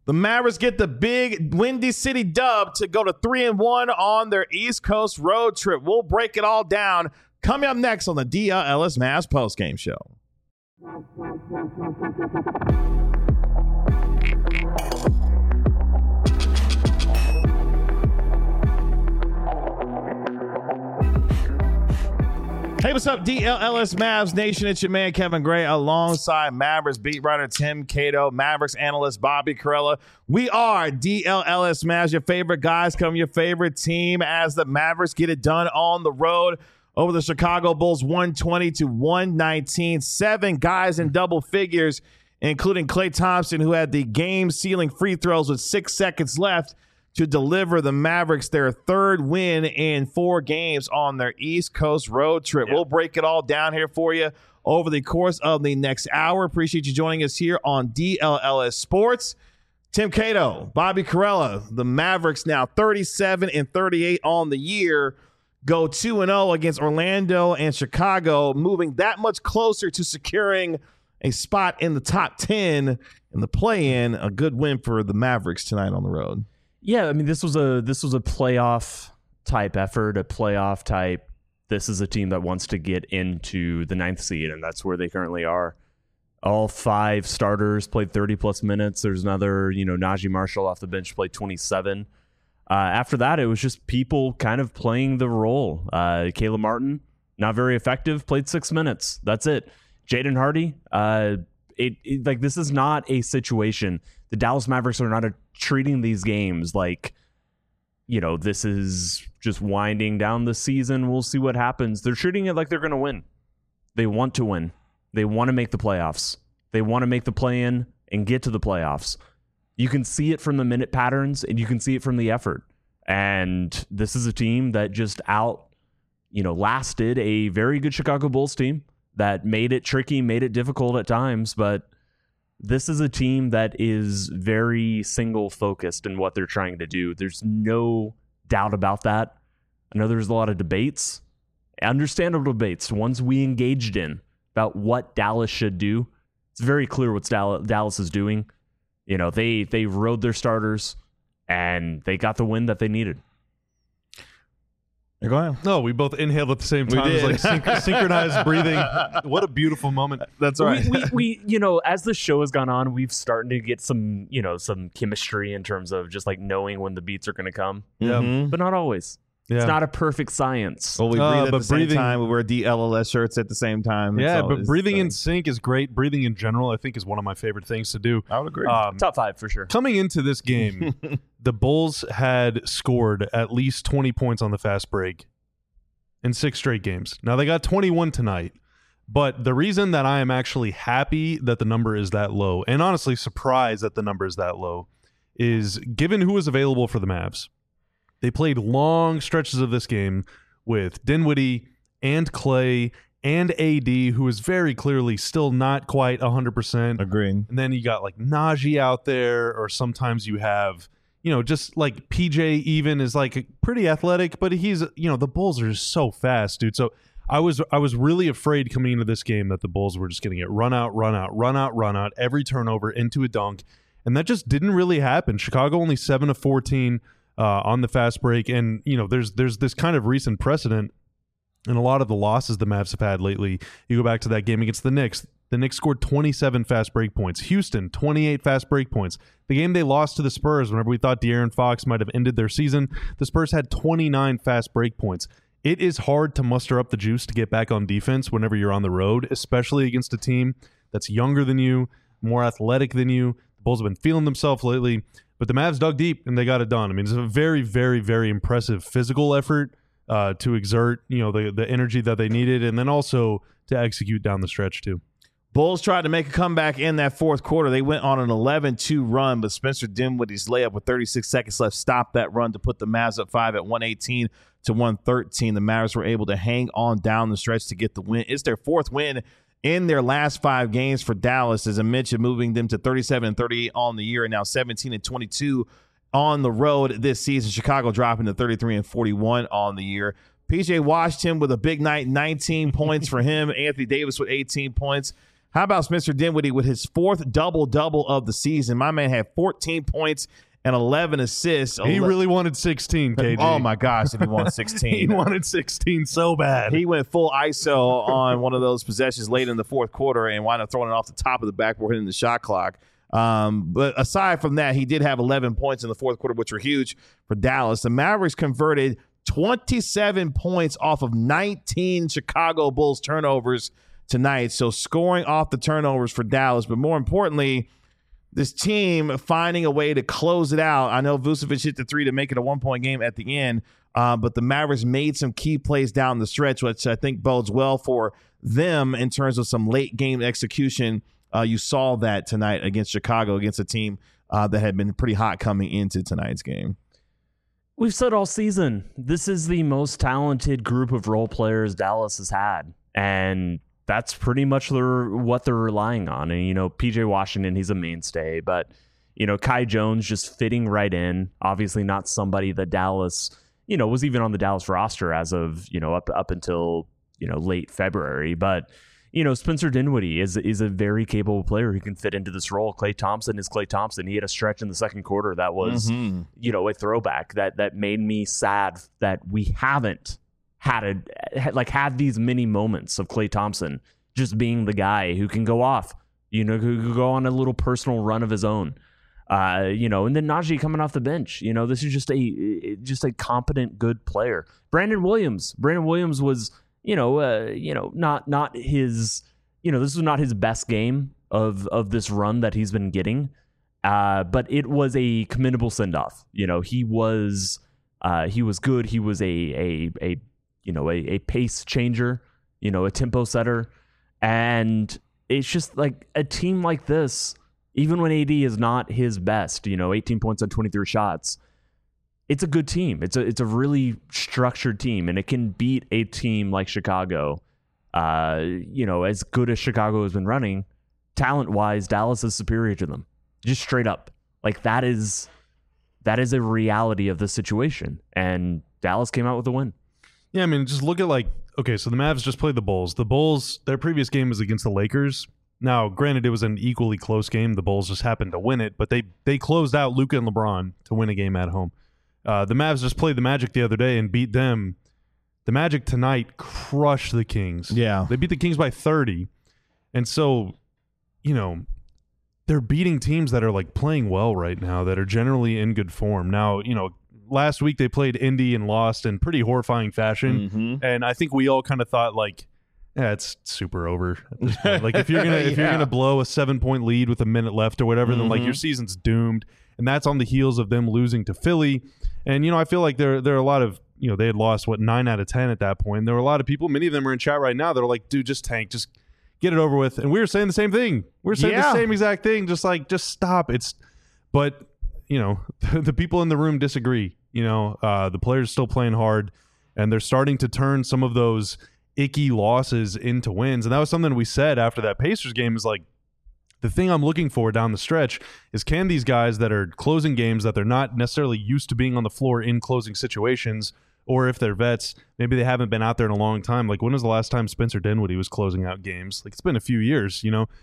The Mavericks get the big Windy City dub to go to 3-1 on their East Coast road trip. We'll break it all down coming up next on the DLLS Mavs postgame show. Hey, what's up, DLLS Mavs Nation? It's your man, Kevin Gray, alongside Mavericks beat writer Tim Cato, Mavericks analyst Bobby Karalla. We are DLLS Mavs, your favorite guys, come your favorite team as the Mavericks get it done on the road over the Chicago Bulls 120-119. 7 guys in double figures, including Klay Thompson, who had the game-sealing free throws with 6 seconds left to deliver the Mavericks their third win in 4 games on their East Coast road trip. We'll break it all down here for you over the course of the next hour. Appreciate you joining us here on DLLS Sports. Tim Cato, Bobby Karalla, the Mavericks now 37-38 on the year, go 2-0 against Orlando and Chicago, moving that much closer to securing a spot in the top 10 in the play-in. A good win for the Mavericks tonight on the road. Yeah, I mean, this was a playoff type effort, a playoff type. This is a team that wants to get into the 9th seed, and that's where they currently are. All 5 starters played 30-plus minutes. There's another, Najee Marshall off the bench played 27. After that, it was just people kind of playing the role. Caleb Martin, not very effective, played 6 minutes. That's it. Jaden Hardy, this is not a situation. The Dallas Mavericks are not treating these games like, this is just winding down the season. We'll see what happens. They're treating it like they're going to win. They want to win. They want to make the playoffs. They want to make the play-in and get to the playoffs. You can see it from the minute patterns, and you can see it from the effort. And this is a team that just lasted a very good Chicago Bulls team that made it tricky, made it difficult at times, but this is a team that is very single-focused in what they're trying to do. There's no doubt about that. I know there's a lot of debates, understandable debates, ones we engaged in about what Dallas should do. It's very clear what Dallas is doing. They rode their starters, and they got the win that they needed. Go ahead. No, we both inhaled at the same time. It was like synchronized breathing. What a beautiful moment. That's right. We as the show has gone on, we've started to get some chemistry in terms of just like knowing when the beats are going to come. Yeah. Mm-hmm. But not always. Yeah. It's not a perfect science. Well, we breathe at the same time. We wear DLLS shirts at the same time. But breathing in sync is great. Breathing in general, I think, is one of my favorite things to do. I would agree. Top 5 for sure. Coming into this game, the Bulls had scored at least 20 points on the fast break in 6 straight games. Now, they got 21 tonight. But the reason that I am actually happy that the number is that low, and honestly surprised that the number is that low, is given who was available for the Mavs. They played long stretches of this game with Dinwiddie and Klay and AD, who is very clearly still not quite 100%. Agreed. And then you got like Najee out there, or sometimes you have, just like PJ even is like pretty athletic, but he's, the Bulls are just so fast, dude. So I was really afraid coming into this game that the Bulls were just going to get run out, every turnover into a dunk. And that just didn't really happen. Chicago only 7 of 14. On the fast break, and there's this kind of recent precedent in a lot of the losses the Mavs have had lately. You go back to that game against the Knicks. The Knicks scored 27 fast break points. Houston, 28 fast break points. The game they lost to the Spurs, whenever we thought De'Aaron Fox might have ended their season, the Spurs had 29 fast break points. It is hard to muster up the juice to get back on defense whenever you're on the road, especially against a team that's younger than you, more athletic than you. The Bulls have been feeling themselves lately. But the Mavs dug deep, and they got it done. I mean, it's a very, very, very impressive physical effort to exert, the energy that they needed, and then also to execute down the stretch, too. Bulls tried to make a comeback in that fourth quarter. They went on an 11-2 run, but Spencer Dinwiddie's layup with 36 seconds left stopped that run to put the Mavs up 5 at 118-113. The Mavs were able to hang on down the stretch to get the win. It's their 4th win in their last 5 games for Dallas, as I mentioned, moving them to 37-38 on the year and now 17-22 on the road this season. Chicago dropping to 33-41 on the year. PJ Washington with a big night, 19 points for him. Anthony Davis with 18 points. How about Spencer Dinwiddie with his 4th double-double of the season? My man had 14 points and 11 assists. He really wanted 16, KG. Oh, my gosh, if he wanted 16. He wanted 16 so bad. He went full ISO on one of those possessions late in the fourth quarter and wound up throwing it off the top of the backboard, hitting the shot clock. But aside from that, he did have 11 points in the fourth quarter, which were huge for Dallas. The Mavericks converted 27 points off of 19 Chicago Bulls turnovers tonight. So scoring off the turnovers for Dallas. But more importantly, this team finding a way to close it out. I know Vucevic hit the 3 to make it a 1-point game at the end, but the Mavericks made some key plays down the stretch, which I think bodes well for them in terms of some late game execution. You saw that tonight against Chicago, against a team that had been pretty hot coming into tonight's game. We've said all season, this is the most talented group of role players Dallas has had. And that's pretty much what they're relying on. And, PJ Washington, he's a mainstay. But, Kai Jones just fitting right in. Obviously not somebody that Dallas, was even on the Dallas roster as of, up until, late February. But, Spencer Dinwiddie is a very capable player who can fit into this role. Klay Thompson is Klay Thompson. He had a stretch in the second quarter that was, a throwback that made me sad that we haven't had these mini moments of Klay Thompson just being the guy who can go off, who can go on a little personal run of his own, and then Najee coming off the bench. This is just a competent, good player. Brandon Williams was, not his, this was not his best game of this run that he's been getting, but it was a commendable send off. He was good. He was a pace changer, a tempo setter. And it's just like a team like this, even when AD is not his best, 18 points on 23 shots, it's a good team. It's a really structured team, and it can beat a team like Chicago. As good as Chicago has been running, talent-wise, Dallas is superior to them. Just straight up. Like that is a reality of the situation. And Dallas came out with a win. Yeah, I mean, just look at so the Mavs just played the Bulls. The Bulls, their previous game was against the Lakers. Now, granted, it was an equally close game. The Bulls just happened to win it, but they closed out Luka and LeBron to win a game at home. The Mavs just played the Magic the other day and beat them. The Magic tonight crushed the Kings. Yeah. They beat the Kings by 30. And so, they're beating teams that are playing well right now, that are generally in good form. Now, last week they played Indy and lost in pretty horrifying fashion. Mm-hmm. And I think we all kind of thought it's super over at this point. If you're gonna blow a 7-point lead with a minute left or whatever, then your season's doomed. And that's on the heels of them losing to Philly. And I feel like there are a lot of they had lost 9 out of 10 at that point. There were a lot of people, many of them are in chat right now, that are like, dude, just tank, just get it over with. And we were saying the same thing. We're saying the same exact thing, just stop. But the people in the room disagree. The players are still playing hard, and they're starting to turn some of those icky losses into wins. And that was something we said after that Pacers game, is the thing I'm looking for down the stretch is, can these guys that are closing games that they're not necessarily used to being on the floor in closing situations, or if they're vets, maybe they haven't been out there in a long time. When was the last time Spencer Dinwiddie was closing out games? It's been a few years,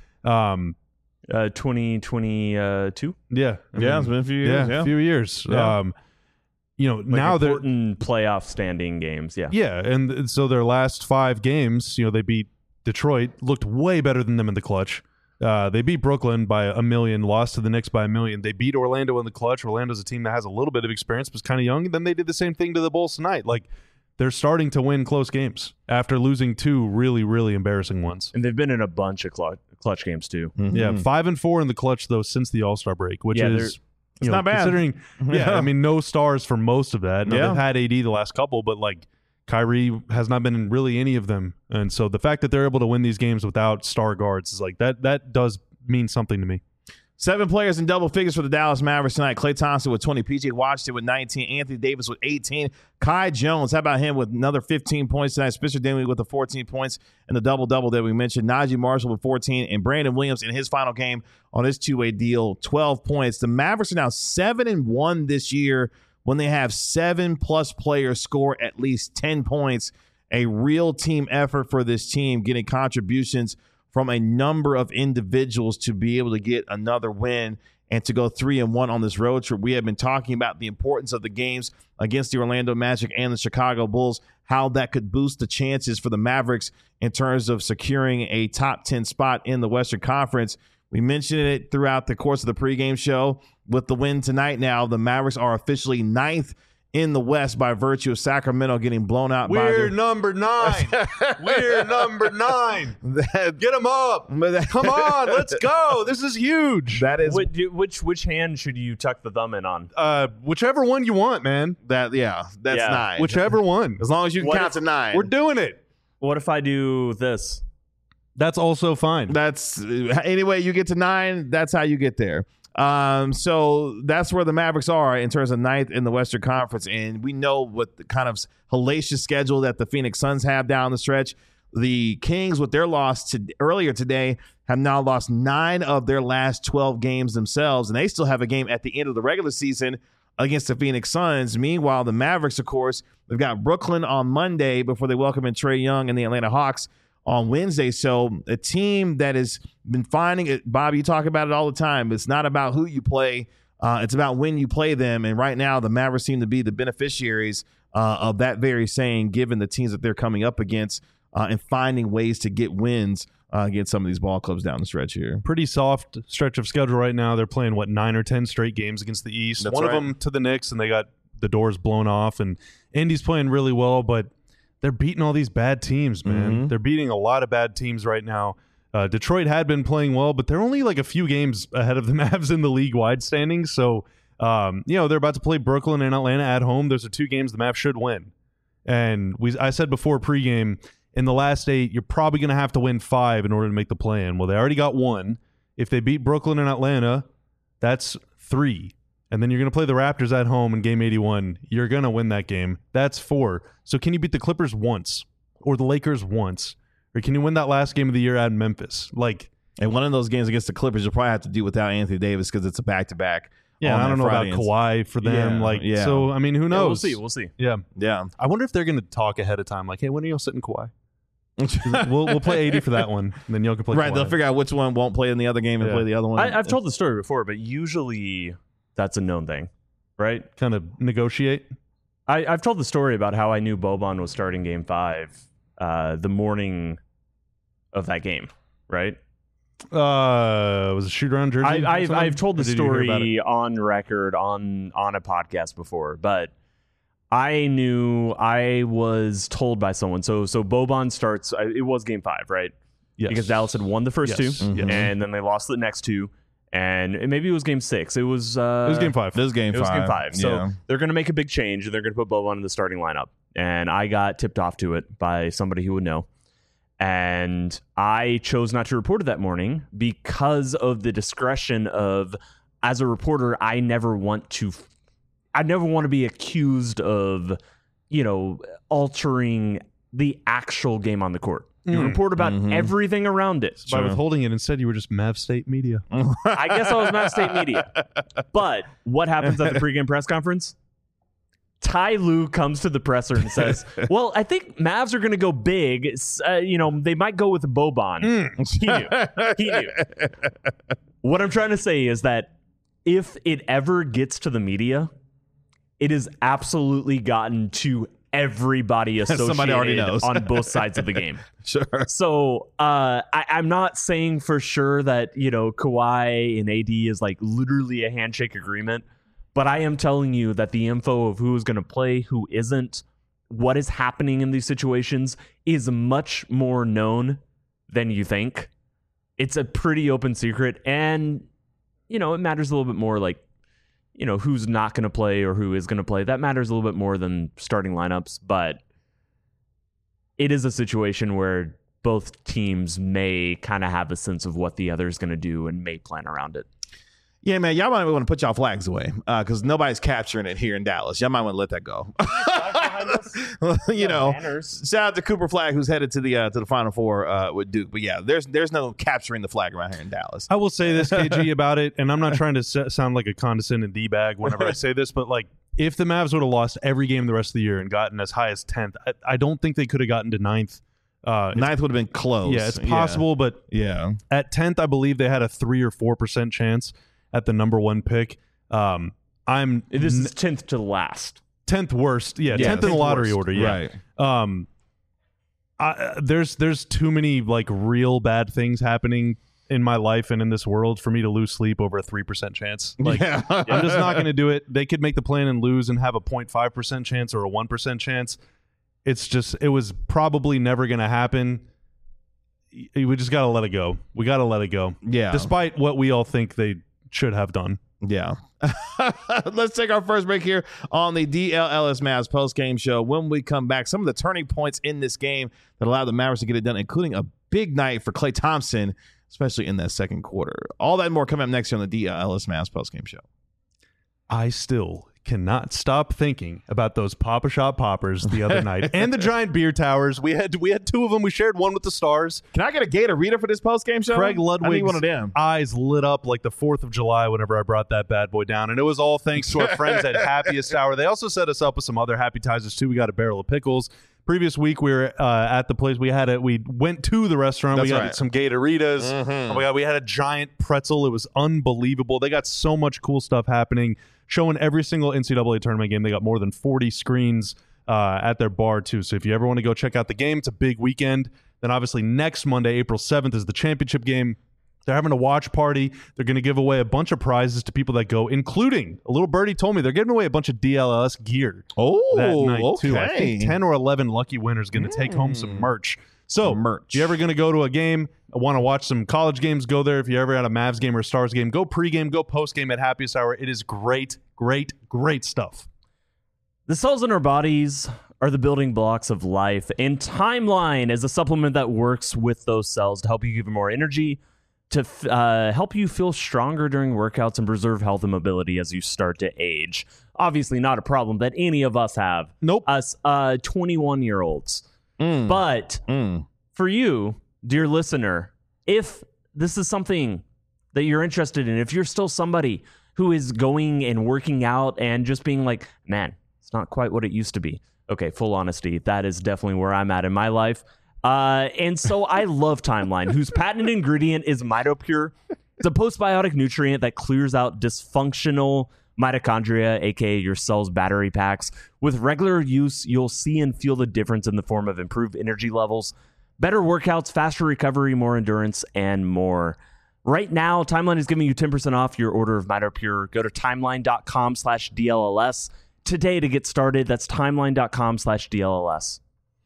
2022. Yeah. It's been a few years. A few years. Yeah. Now they're important playoff standing games. Yeah. And so their last 5 games, they beat Detroit, looked way better than them in the clutch. They beat Brooklyn by 1 million, lost to the Knicks by 1 million. They beat Orlando in the clutch. Orlando's a team that has a little bit of experience, but is kind of young. And then they did the same thing to the Bulls tonight. They're starting to win close games after losing 2 really, really embarrassing ones. And they've been in a bunch of clutch games too. Mm-hmm. Yeah, 5-4 in the clutch though since the All-Star break, which is it's not bad. Considering, no stars for most of that. Now, they've had AD the last couple, but Kyrie has not been in really any of them. And so the fact that they're able to win these games without star guards is that does mean something to me. 7 players in double figures for the Dallas Mavericks tonight. Klay Thompson with 20, PJ Washington with 19, Anthony Davis with 18, Kai Jones, how about him with another 15 points tonight, Spencer Dinwiddie with the 14 points and the double-double that we mentioned, Najee Marshall with 14, and Brandon Williams in his final game on his 2-way deal, 12 points. The Mavericks are now 7-1 this year when they have 7+ players score at least 10 points. A real team effort for this team, getting contributions from a number of individuals to be able to get another win and to go 3-1 on this road trip. We have been talking about the importance of the games against the Orlando Magic and the Chicago Bulls, how that could boost the chances for the Mavericks in terms of securing a top 10 spot in the Western Conference. We mentioned it throughout the course of the pregame show. With the win tonight now, the Mavericks are officially 9th in the West by virtue of Sacramento getting blown out by We're number 9. We're number 9. Get them up. Come on, let's go. This is huge. That is Which hand should you tuck the thumb in on? Whichever one you want, man. that's Yeah. 9. Whichever one. As long as you can What count to 9. We're doing it. What if I do this? That's also fine. That's anyway, you get to 9, that's how you get there. So that's where the Mavericks are in terms of 9th in the Western Conference. And we know what the kind of hellacious schedule that the Phoenix Suns have down the stretch. The Kings, with their loss earlier today, have now lost 9 of their last 12 games themselves. And they still have a game at the end of the regular season against the Phoenix Suns. Meanwhile, the Mavericks, of course, they've got Brooklyn on Monday before they welcome in Trae Young and the Atlanta Hawks on Wednesday. So a team that has been finding it, Bob, you talk about it all the time. It's not about who you play. It's about when you play them. And right now the Mavericks seem to be the beneficiaries of that very saying, given the teams that they're coming up against and finding ways to get wins against some of these ball clubs down the stretch here. Pretty soft stretch of schedule right now. They're playing, 9 or 10 straight games against the East. That's One right. of them to the Knicks, and they got the doors blown off. And Indy's playing really well, but they're beating all these bad teams, man. Mm-hmm. They're beating a lot of bad teams right now. Detroit had been playing well, but they're only like a few games ahead of the Mavs in the league-wide standings. So, they're about to play Brooklyn and Atlanta at home. Those are 2 games the Mavs should win. And I said before pregame, in the last 8, you're probably going to have to win 5 in order to make the play-in. Well, they already got 1. If they beat Brooklyn and Atlanta, that's 3. And then you're going to play the Raptors at home in Game 81. You're going to win that game. That's 4. So can you beat the Clippers once or the Lakers once? Or can you win that last game of the year at Memphis? And one of those games against the Clippers, you'll probably have to do without Anthony Davis because it's a back-to-back. Yeah, I don't know Friday. about Kawhi for them. Yeah. So, I mean, who knows? We'll see. Yeah. Yeah. I wonder if they're going to talk ahead of time. Like, hey, when are y'all sitting Kawhi? we'll play 80 for that one. And then y'all can play Right. Kawhi. They'll figure out which one won't play in the other game and Yeah. play the other one. I've told the story before, but usually that's a known thing, right? Kind of negotiate. I've told the story about how I knew Boban was starting Game 5 the morning of that game, right? Was it shoot around Jersey? I've told the Or did you hear about it? story on record on a podcast before, but I knew I was told by someone. So Boban starts. It was Game 5, right? Yes. Because Dallas had won the first Yes. 2, Mhm. and then they lost the next 2, and maybe it was Game 6. It was Game 5. This game It was Game 5. So Yeah. they're going to make a big change, and they're going to put Boban in the starting lineup. And I got tipped off to it by somebody who would know. And I chose not to report it that morning because of the discretion of, as a reporter, I never want to be accused of, altering the actual game on the court. You report about everything around it. By withholding it, instead you were just Mav State Media. I guess I was Matt State Media. But what happens at the pregame press conference? Ty Lue comes to the presser and says, well, I think Mavs are going to go big. They might go with Boban. He knew. What I'm trying to say is that if it ever gets to the media, it has absolutely gotten to everybody Somebody already associated knows. on both sides of the game. Sure. So I'm not saying for sure that, Kawhi and AD is like literally a handshake agreement, but I am telling you that the info of who is going to play, who isn't, what is happening in these situations is much more known than you think. It's a pretty open secret, and, it matters a little bit more like, who's not going to play or who is going to play. That matters a little bit more than starting lineups, but it is a situation where both teams may kind of have a sense of what the other is going to do and may plan around it. Yeah, man, y'all might want to put y'all flags away because nobody's capturing it here in Dallas. Y'all might want to let that go. Shout out to Cooper Flag, who's headed to the Final Four with Duke. But yeah, there's no capturing the flag around here in Dallas. I will say this, KG, about it, and I'm not trying to sound like a condescending D-bag whenever I say this, but if the Mavs would have lost every game the rest of the year and gotten as high as 10th, I don't think they could have gotten to 9th Ninth would have been close. Yeah, it's possible, but Yeah. at 10th, I believe they had a 3 or 4% chance at the number 1 pick. This is 10th to last. 10th worst. Yeah, 10th in the lottery order. Yeah. Right. There's too many like real bad things happening in my life and in this world for me to lose sleep over a 3% chance. Like, Yeah. I'm just not going to do it. They could make the plan and lose and have a 0.5% chance or a 1% chance. It was probably never going to happen. We just got to let it go. We got to let it go. Yeah. Despite what we all think they should have done. Yeah. Let's take our first break here on the DLLS Mavs post-game show. When we come back, some of the turning points in this game that allowed the Mavericks to get it done, including a big night for Klay Thompson, especially in that second quarter. All that and more coming up next here on the DLLS Mavs post-game show. I still cannot stop thinking about those Pop-A-Shot poppers the other night and the giant beer towers. We had 2 of them. We shared one with the Stars. Can I get a Gatorita for this post-game show? Craig I need Ludwig's one of them. eyes lit up like the 4th of July whenever I brought that bad boy down. And it was all thanks to our friends at Happiest Hour. They also set us up with some other appetizers too. We got a barrel of pickles. Previous week we were at the place. We went to the restaurant. That's we got right. some Gatoritas. Oh my God, we had a giant pretzel. It was unbelievable. They got so much cool stuff happening, showing every single NCAA tournament game. They got more than 40 screens at their bar too. So if you ever want to go check out the game, it's a big weekend. Then obviously next Monday, April 7th, is the championship game. They're having a watch party. They're going to give away a bunch of prizes to people that go, including a little birdie told me they're giving away a bunch of DLLS gear that night too. I think 10 or 11 lucky winners going to take home some merch. So if you're ever going to go to a game, want to watch some college games, go there. If you're ever at a Mavs game or a Stars game, go pregame, go postgame at Happiest Hour. It is great, great, great stuff. The cells in our bodies are the building blocks of life, and Timeline is a supplement that works with those cells to help you give them more energy, to help you feel stronger during workouts and preserve health and mobility as you start to age. Obviously not a problem that any of us have. Nope. Us 21-year-olds. But for you, dear listener, if this is something that you're interested in, if you're still somebody who is going and working out and just being like, man, it's not quite what it used to be. Okay, full honesty, that is definitely where I'm at in my life. And so I love Timeline, whose patented ingredient is MitoPure. It's a postbiotic nutrient that clears out dysfunctional mitochondria, aka your cell's battery packs. With regular use, you'll see and feel the difference in the form of improved energy levels, better workouts, faster recovery, more endurance, and more. Right now, Timeline is giving you 10% off your order of MitoPure. Go to timeline.com/DLLS today to get started. That's timeline.com/DLLS.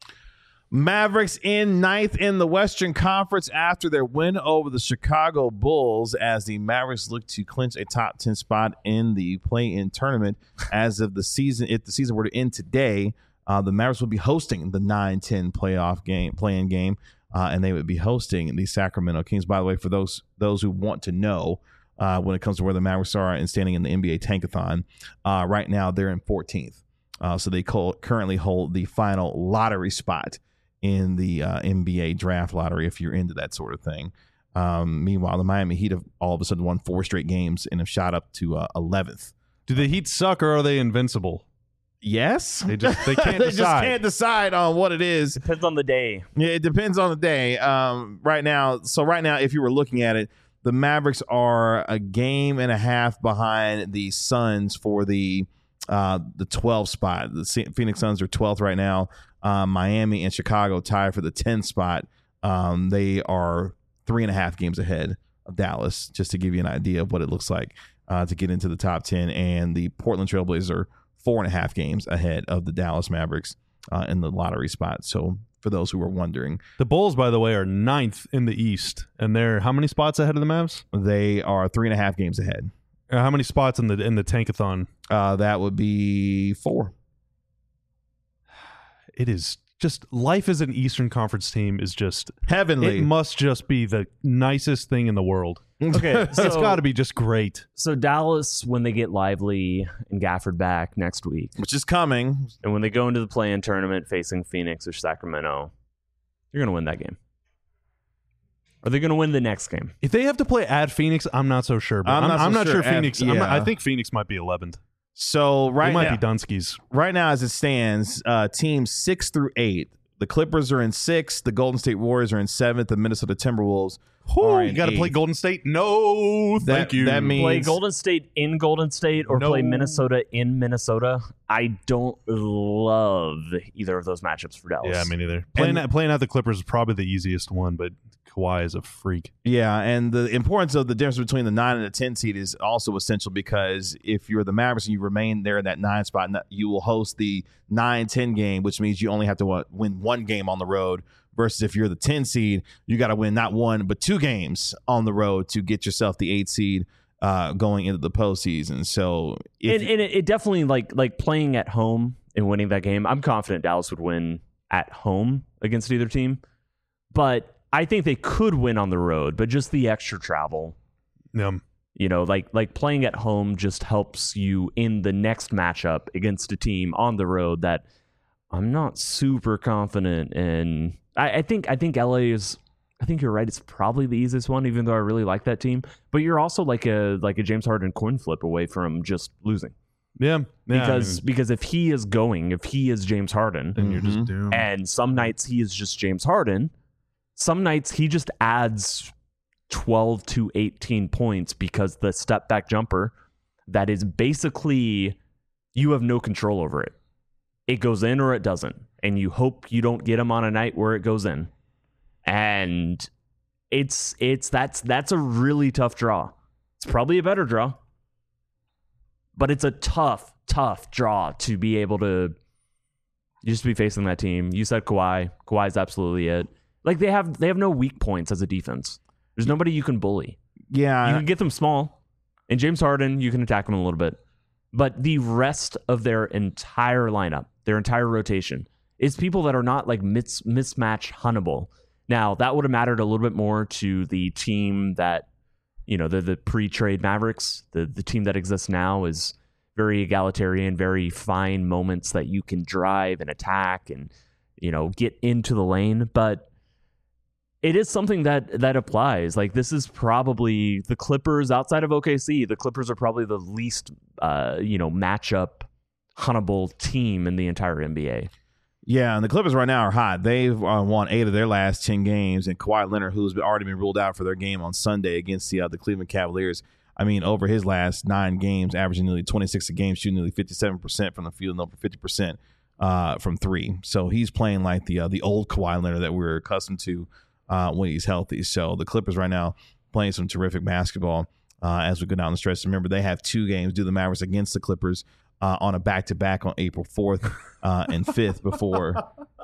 Mavericks in 9th in the Western Conference after their win over the Chicago Bulls, as the Mavericks look to clinch a top 10 spot in the play-in tournament. As of the season, if the season were to end today, the Mavericks would be hosting the 9-10 play-in game, and they would be hosting the Sacramento Kings. By the way, for those who want to know, when it comes to where the Mavericks are and standing in the NBA Tankathon, right now they're in 14th. So they currently hold the final lottery spot in the NBA draft lottery, if you're into that sort of thing. Meanwhile, the Miami Heat have all of a sudden won 4 straight games and have shot up to 11th. Do the Heat suck or are they invincible? Yes. They can't They decide. just can't decide on what it is. Depends on the day. Yeah, it depends on the day. Right now, if you were looking at it, the Mavericks are a game and a half behind the Suns for the 12 spot. The Phoenix Suns are 12th right now. Miami and Chicago tie for the 10th spot. They are 3.5 games ahead of Dallas, just to give you an idea of what it looks like to get into the top 10. And the Portland Trailblazers are 4.5 games ahead of the Dallas Mavericks in the lottery spot. So for those who were wondering, the Bulls, by the way, are 9th in the East, and they're how many spots ahead of the Mavs? they are 3.5 games ahead. How many spots in the Tankathon? That would be 4. It is just life as an Eastern Conference team is just Heavenly. It must just be the nicest thing in the world. Okay, It's got to be just great. So Dallas, when they get Lively and Gafford back next week, Which is coming. and when they go into the play-in tournament facing Phoenix or Sacramento, you're going to win that game. Are they going to win the next game? If they have to play at Phoenix, I'm not so sure. But I'm not so sure. Phoenix. Yeah. I think Phoenix might be 11th. So They might now, be Dunskies. right now as it stands, teams 6 through 8 The Clippers are in 6th. The Golden State Warriors are in 7th. The Minnesota Timberwolves Whew, are you in got to play 8th. Golden State? No, thank you. That means Play Golden State in Golden State or No. play Minnesota in Minnesota. I don't love either of those matchups for Dallas. Yeah, me neither. Playing out the Clippers is probably the easiest one, but Kawhi is a freak. Yeah, and the importance of the difference between the 9 and the 10 seed is also essential because if you're the Mavericks and you remain there in that 9 spot, you will host the 9-10 game, which means you only have to win 1 game on the road. Versus if you're the 10 seed, you got to win not 1 but 2 games on the road to get yourself the 8 seed going into the postseason. So, it definitely like playing at home and winning that game. I'm confident Dallas would win at home against either team, but I think they could win on the road. But just the extra travel, like playing at home just helps you in the next matchup against a team on the road that I'm not super confident in. I think LA is. I think you're right. It's probably the easiest one, even though I really like that team. But you're also like a James Harden coin flip away from just losing. Yeah, Because if he is James Harden, then you're just doomed. and some nights he is just James Harden, some nights he just adds 12 to 18 points because the step back jumper that is basically you have no control over it. It goes in or it doesn't, and you hope you don't get him on a night where it goes in. And that's a really tough draw. It's probably a better draw, but it's a tough draw to be able to just be facing that team. You said Kawhi. Kawhi's absolutely it. Like they have no weak points as a defense. There's nobody you can bully. yeah, You can get them small, and James Harden, you can attack him a little bit. But the rest of their entire lineup, their entire rotation, is people that are not like mismatch huntable. Now, that would have mattered a little bit more to the team that, the pre-trade Mavericks. The team that exists now is very egalitarian, very fine moments that you can drive and attack and, get into the lane. But it is something that applies. Like, this is probably the Clippers outside of OKC. The Clippers are probably the least, matchup huntable team in the entire NBA. Yeah, and the Clippers right now are hot. They've won 8 of their last 10 games, and Kawhi Leonard, who's already been ruled out for their game on Sunday against the Cleveland Cavaliers, over his last 9 games, averaging nearly 26 a game, shooting nearly 57% from the field and over 50% from 3. So he's playing like the old Kawhi Leonard that we're accustomed to when he's healthy. So the Clippers right now playing some terrific basketball as we go down the stretch. Remember, they have 2 games, do the Mavericks against the Clippers on a back-to-back on April 4th and 5th before.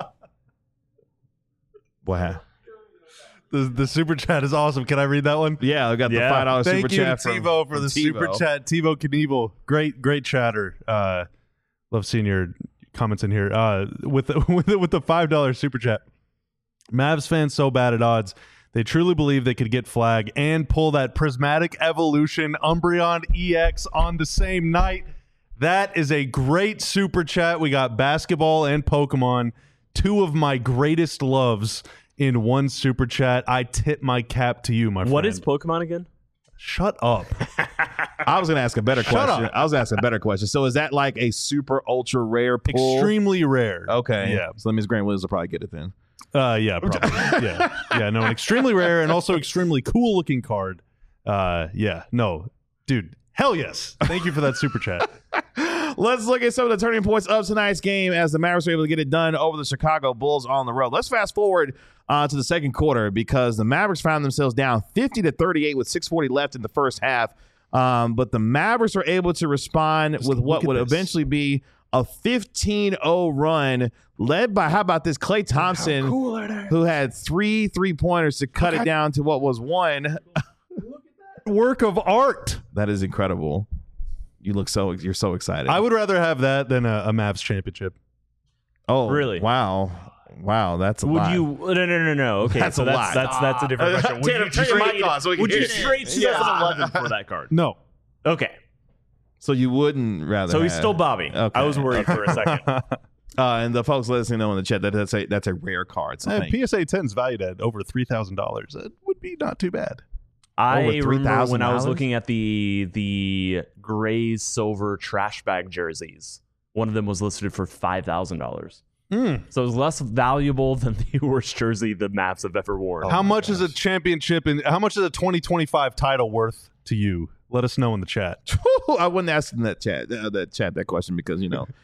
What? The super chat is awesome. Can I read that one? Yeah, I got the $5 super Thank you, chat TiVo, for the super chat. TiVo Knievel, great chatter. Love seeing your comments in here. With the $5 super chat. Mavs fans so bad at odds. They truly believe they could get flag and pull that Prismatic Evolution Umbreon EX on the same night. That is a great super chat. We got basketball and Pokemon, 2 of my greatest loves in one super chat. I tip my cap to you, my friend. What is Pokemon again? Shut up. I was going to ask a better question. Up. I was asking a better question. So is that like a super ultra rare pull? Extremely rare. Okay. Yeah. So that means Grant Williams will probably get it then. Yeah, probably. Yeah, no, an extremely rare and also extremely cool looking card. Dude, hell yes. Thank you for that super chat. Let's look at some of the turning points of tonight's game as the Mavericks were able to get it done over the Chicago Bulls on the road. Let's fast forward to the second quarter because the Mavericks found themselves down 50-38 with 6:40 left in the first half. But the Mavericks were able to respond with what would eventually be a 15-0 run led by, how about this, Klay Thompson, who had 3 3-pointers to cut it down to what was 1. Look at that work of art. That is incredible. You're so excited. I would rather have that than a Mavs championship. Oh, really? Wow, that's a lot. No. Okay, That's so a lot. that's a different question. Would you trade 2011 for that card? No. Okay. So you wouldn't rather. So he's still Bobby. Okay. I was worried for a second. And the folks listening know in the chat that that's a rare card. So PSA 10 is valued at over $3,000. It would be not too bad. I Over remember when I was $3,000? looking at the gray silver trash bag jerseys. One of them was listed for $5,000. So it was less valuable than the worst jersey the Mavs have ever worn. How much is a championship and how much is a 2025 title worth to you? Let us know in the chat. I wouldn't ask in that chat that question because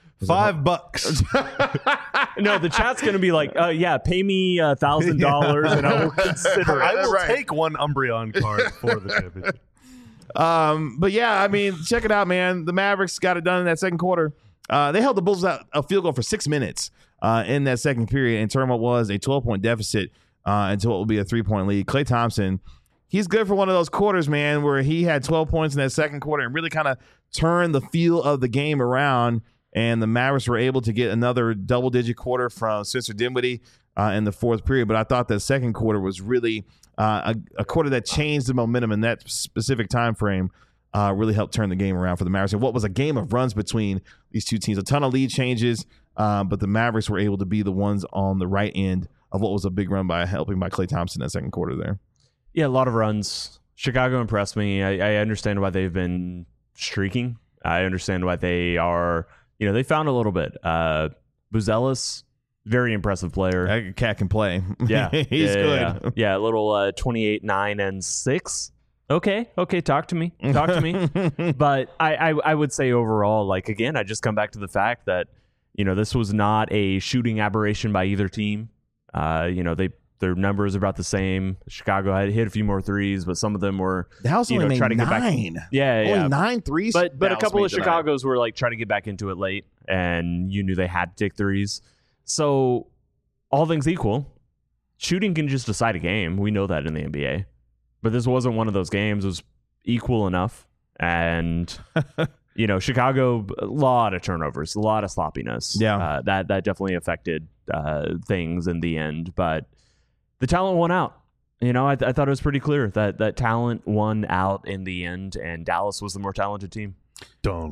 $5. No, the chat's going to be like, yeah, pay me $1,000 and I will consider it. I will take one Umbreon card for the championship. But yeah, I mean, check it out, man. The Mavericks got it done in that second quarter. They held the Bulls out a field goal for 6 minutes in that second period and turned what was a 12-point deficit into what will be a 3-point lead. Klay Thompson, he's good for one of those quarters, man, where he had 12 points in that second quarter and really kind of turned the feel of the game around. And the Mavericks were able to get another double-digit quarter from Spencer Dinwiddie in the fourth period. But I thought that second quarter was really a quarter that changed the momentum in that specific time frame. Really helped turn the game around for the Mavericks. And what was a game of runs between these two teams. A ton of lead changes, but the Mavericks were able to be the ones on the right end of what was a big run by Klay Thompson in that second quarter there. Yeah, a lot of runs. Chicago impressed me. I understand why they've been streaking. I understand why they are... they found a little bit. Buzelis, very impressive player. That cat can play. Yeah. He's good. Yeah, a little 28, 9, and 6. Okay, talk to me. But I would say overall, again, I just come back to the fact that, this was not a shooting aberration by either team. Their numbers are about the same. Chicago had hit a few more threes, but some of them were Dallas only made 9. Yeah. 9 threes. But a couple of Chicago's were trying to get back into it late, and you knew they had to take threes. So all things equal, shooting can just decide a game. We know that in the NBA. But this wasn't one of those games. It was equal enough. And, Chicago, a lot of turnovers, a lot of sloppiness. Yeah. That definitely affected things in the end. But the talent won out. I thought it was pretty clear that talent won out in the end, and Dallas was the more talented team. How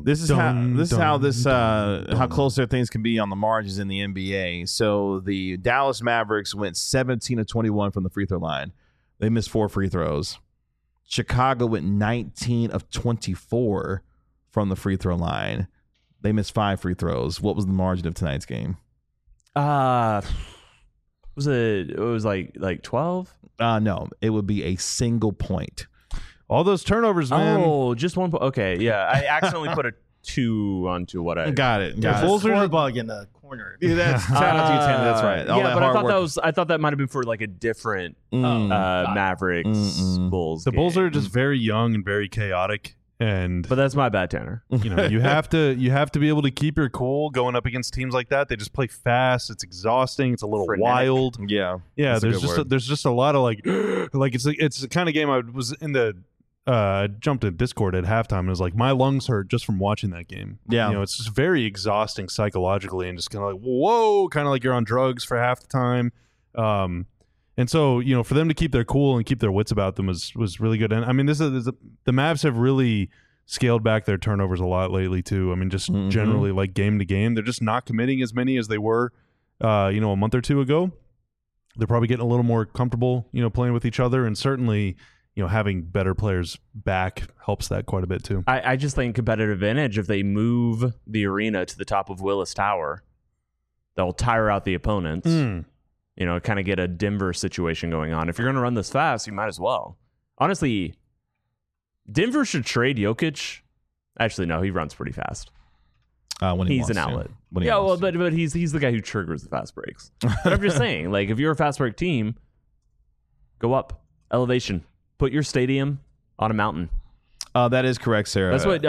close their things can be on the margins in the NBA. So the Dallas Mavericks went 17 of 21 from the free throw line. They missed 4 free throws. Chicago went 19 of 24 from the free throw line. They missed 5 free throws. What was the margin of tonight's game? It was like 12? No, it would be a single point. All those turnovers, man. Oh, just 1 point. Okay, yeah. I accidentally put a 2 onto what I got it. The Bulls are the bug in the corner. Yeah, that's right. All yeah, that but I thought that might have been for a different Mavericks Bulls. The game. Bulls are just very young and very chaotic, and but that's my bad, Tanner. you have to be able to keep your cool going up against teams like that. They just play fast. It's exhausting. It's a little wild. Yeah. There's just a lot of it's the kind of game I was in the. Jumped in Discord at halftime and was like, my lungs hurt just from watching that game. Yeah. It's just very exhausting psychologically and just kind of whoa, kind of like you're on drugs for half the time. And so, for them to keep their cool and keep their wits about them was really good. And I mean, the Mavs have really scaled back their turnovers a lot lately too. I mean, just generally game to game, they're just not committing as many as they were, a month or two ago. They're probably getting a little more comfortable, playing with each other, and certainly, having better players back helps that quite a bit too. I just think competitive advantage, if they move the arena to the top of Willis Tower, they'll tire out the opponents. Kind of get a Denver situation going on. If you're going to run this fast, you might as well. Honestly, Denver should trade Jokic. Actually, no, he runs pretty fast. When he's an outlet. But he's the guy who triggers the fast breaks. But I'm just saying, if you're a fast break team, go up, elevation. Put your stadium on a mountain. That is correct, Sarah. That's what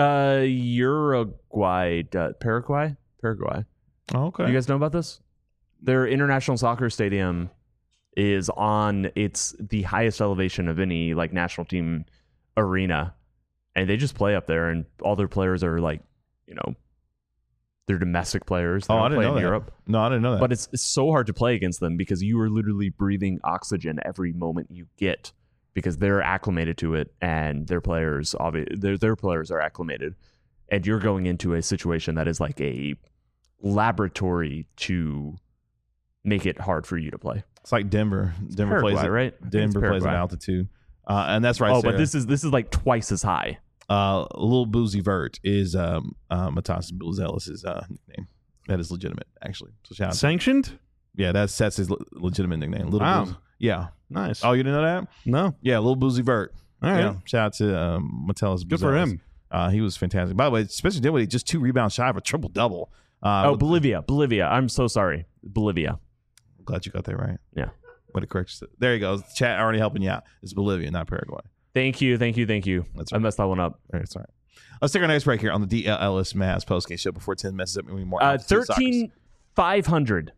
Paraguay. Oh, okay. You guys know about this? Their international soccer stadium is it's the highest elevation of any national team arena, and they just play up there, and all their players are they're domestic players. They I didn't play know in that. Europe. No, I didn't know that. But it's so hard to play against them because you are literally breathing oxygen every moment you get, because they're acclimated to it, and their players are acclimated, and you're going into a situation that is like a laboratory to make it hard for you to play. It's like Denver. Denver Paraguay, plays it, right? Denver plays at altitude, and that's right. Oh, Sarah. but this is like twice as high. Lil Boozy Vert is Matas Buzelis' nickname. That is legitimate, actually. So shout out. Sanctioned? Yeah, that's his legitimate nickname. Little Wow. Boozy. Yeah. Nice. Oh, you didn't know that? no. Yeah, Little Boozy Vert. All right. Yeah. Shout out to Metellus. Good for him. He was fantastic. By the way, Spencer Dinwiddie just 2 rebounds shy of a triple double. Bolivia. I'm so sorry. Bolivia. Glad you got that right. Yeah. What a correct. There you go. Chat already helping you out. It's Bolivia, not Paraguay. Thank you. That's I messed that one up. That's all right. Let's take our next break here on the DLLS Mavs postgame show before 10 messes up any more. 13,500.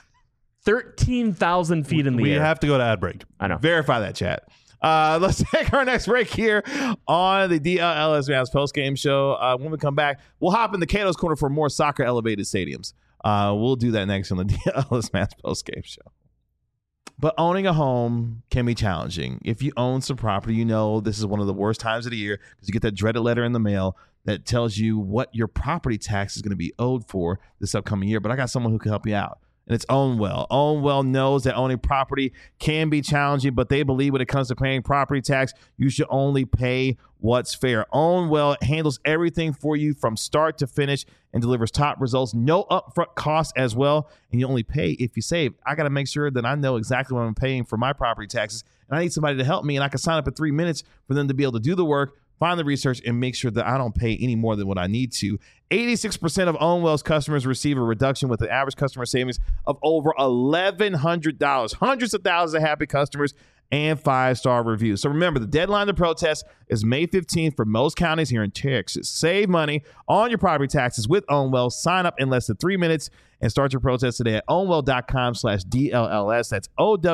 13,000 feet in the We air. have to go to ad break. I know. Verify that, chat. Let's take our next break here on the DLLS Mavs postgame show. When we come back, we'll hop in the Cato's Corner for more soccer elevated stadiums. We'll do that next on the DLLS Mavs postgame show. But owning a home can be challenging. If you own some property, you know this is one of the worst times of the year because you get that dreaded letter in the mail that tells you what your property tax is going to be owed for this upcoming year. But I got someone who can help you out. And it's OwnWell. OwnWell knows that owning property can be challenging, but they believe when it comes to paying property tax, you should only pay what's fair. OwnWell handles everything for you from start to finish and delivers top results. No upfront costs as well, and you only pay if you save. I got to make sure that I know exactly what I'm paying for my property taxes, and I need somebody to help me, and I can sign up in 3 minutes for them to be able to do the work, find the research, and make sure that I don't pay any more than what I need to. 86% of OwnWell's customers receive a reduction with an average customer savings of over $1,100. Hundreds of thousands of happy customers and 5-star reviews. So remember, the deadline to protest is May 15th for most counties here in Texas. Save money on your property taxes with OwnWell. Sign up in less than 3 minutes and start your protest today at ownwell.com/DLLS. That's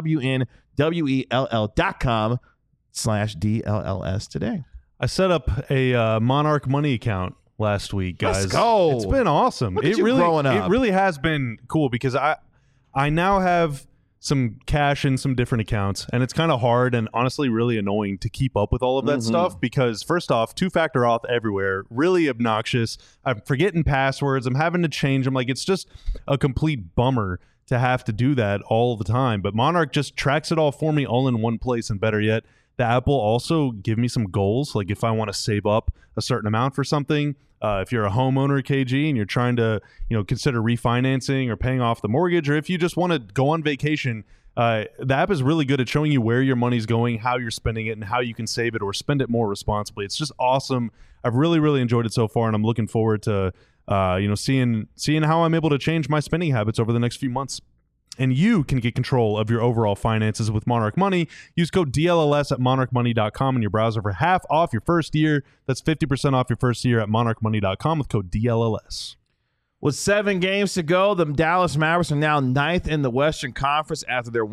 OWNWELL.com/DLLS today. I set up a Monarch Money account last week, guys. Let's go. It's been awesome. Look at you growing up. It really has been cool because I now have some cash in some different accounts, and it's kind of hard and honestly really annoying to keep up with all of that stuff because first off, 2-factor auth everywhere, really obnoxious. I'm forgetting passwords. I'm having to change them. Like, it's just a complete bummer to have to do that all the time. But Monarch just tracks it all for me all in one place, and better yet, the app will also give me some goals. Like if I want to save up a certain amount for something, if you're a homeowner, KG, and you're trying to, consider refinancing or paying off the mortgage, or if you just want to go on vacation, the app is really good at showing you where your money's going, how you're spending it, and how you can save it or spend it more responsibly. It's just awesome. I've really, really enjoyed it so far, and I'm looking forward to, seeing how I'm able to change my spending habits over the next few months. And you can get control of your overall finances with Monarch Money. Use code DLLS at monarchmoney.com in your browser for half off your first year. That's 50% off your first year at monarchmoney.com with code DLLS. With 7 games to go, the Dallas Mavericks are now 9th in the Western Conference after their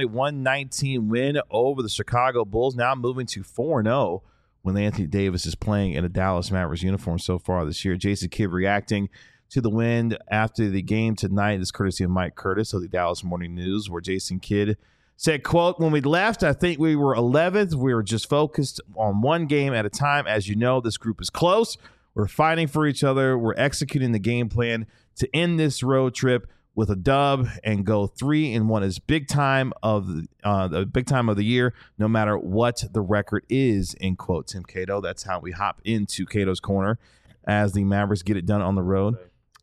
121-19 win over the Chicago Bulls, now moving to 4-0 when Anthony Davis is playing in a Dallas Mavericks uniform so far this year. Jason Kidd reacting to the win after the game tonight is courtesy of Mike Curtis of the Dallas Morning News, where Jason Kidd said, quote, "When we left, I think we were 11th. We were just focused on one game at a time. As you know, this group is close. We're fighting for each other. We're executing the game plan to end this road trip with a dub and go 3-1 is big time of the big time of the year, no matter what the record is," end quote. Tim Cato. That's how we hop into Cato's Corner as the Mavericks get it done on the road.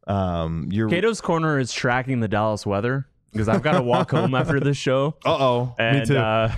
Cato's Corner is tracking the Dallas weather because I've got to walk home after this show. Uh-oh. And, Me too.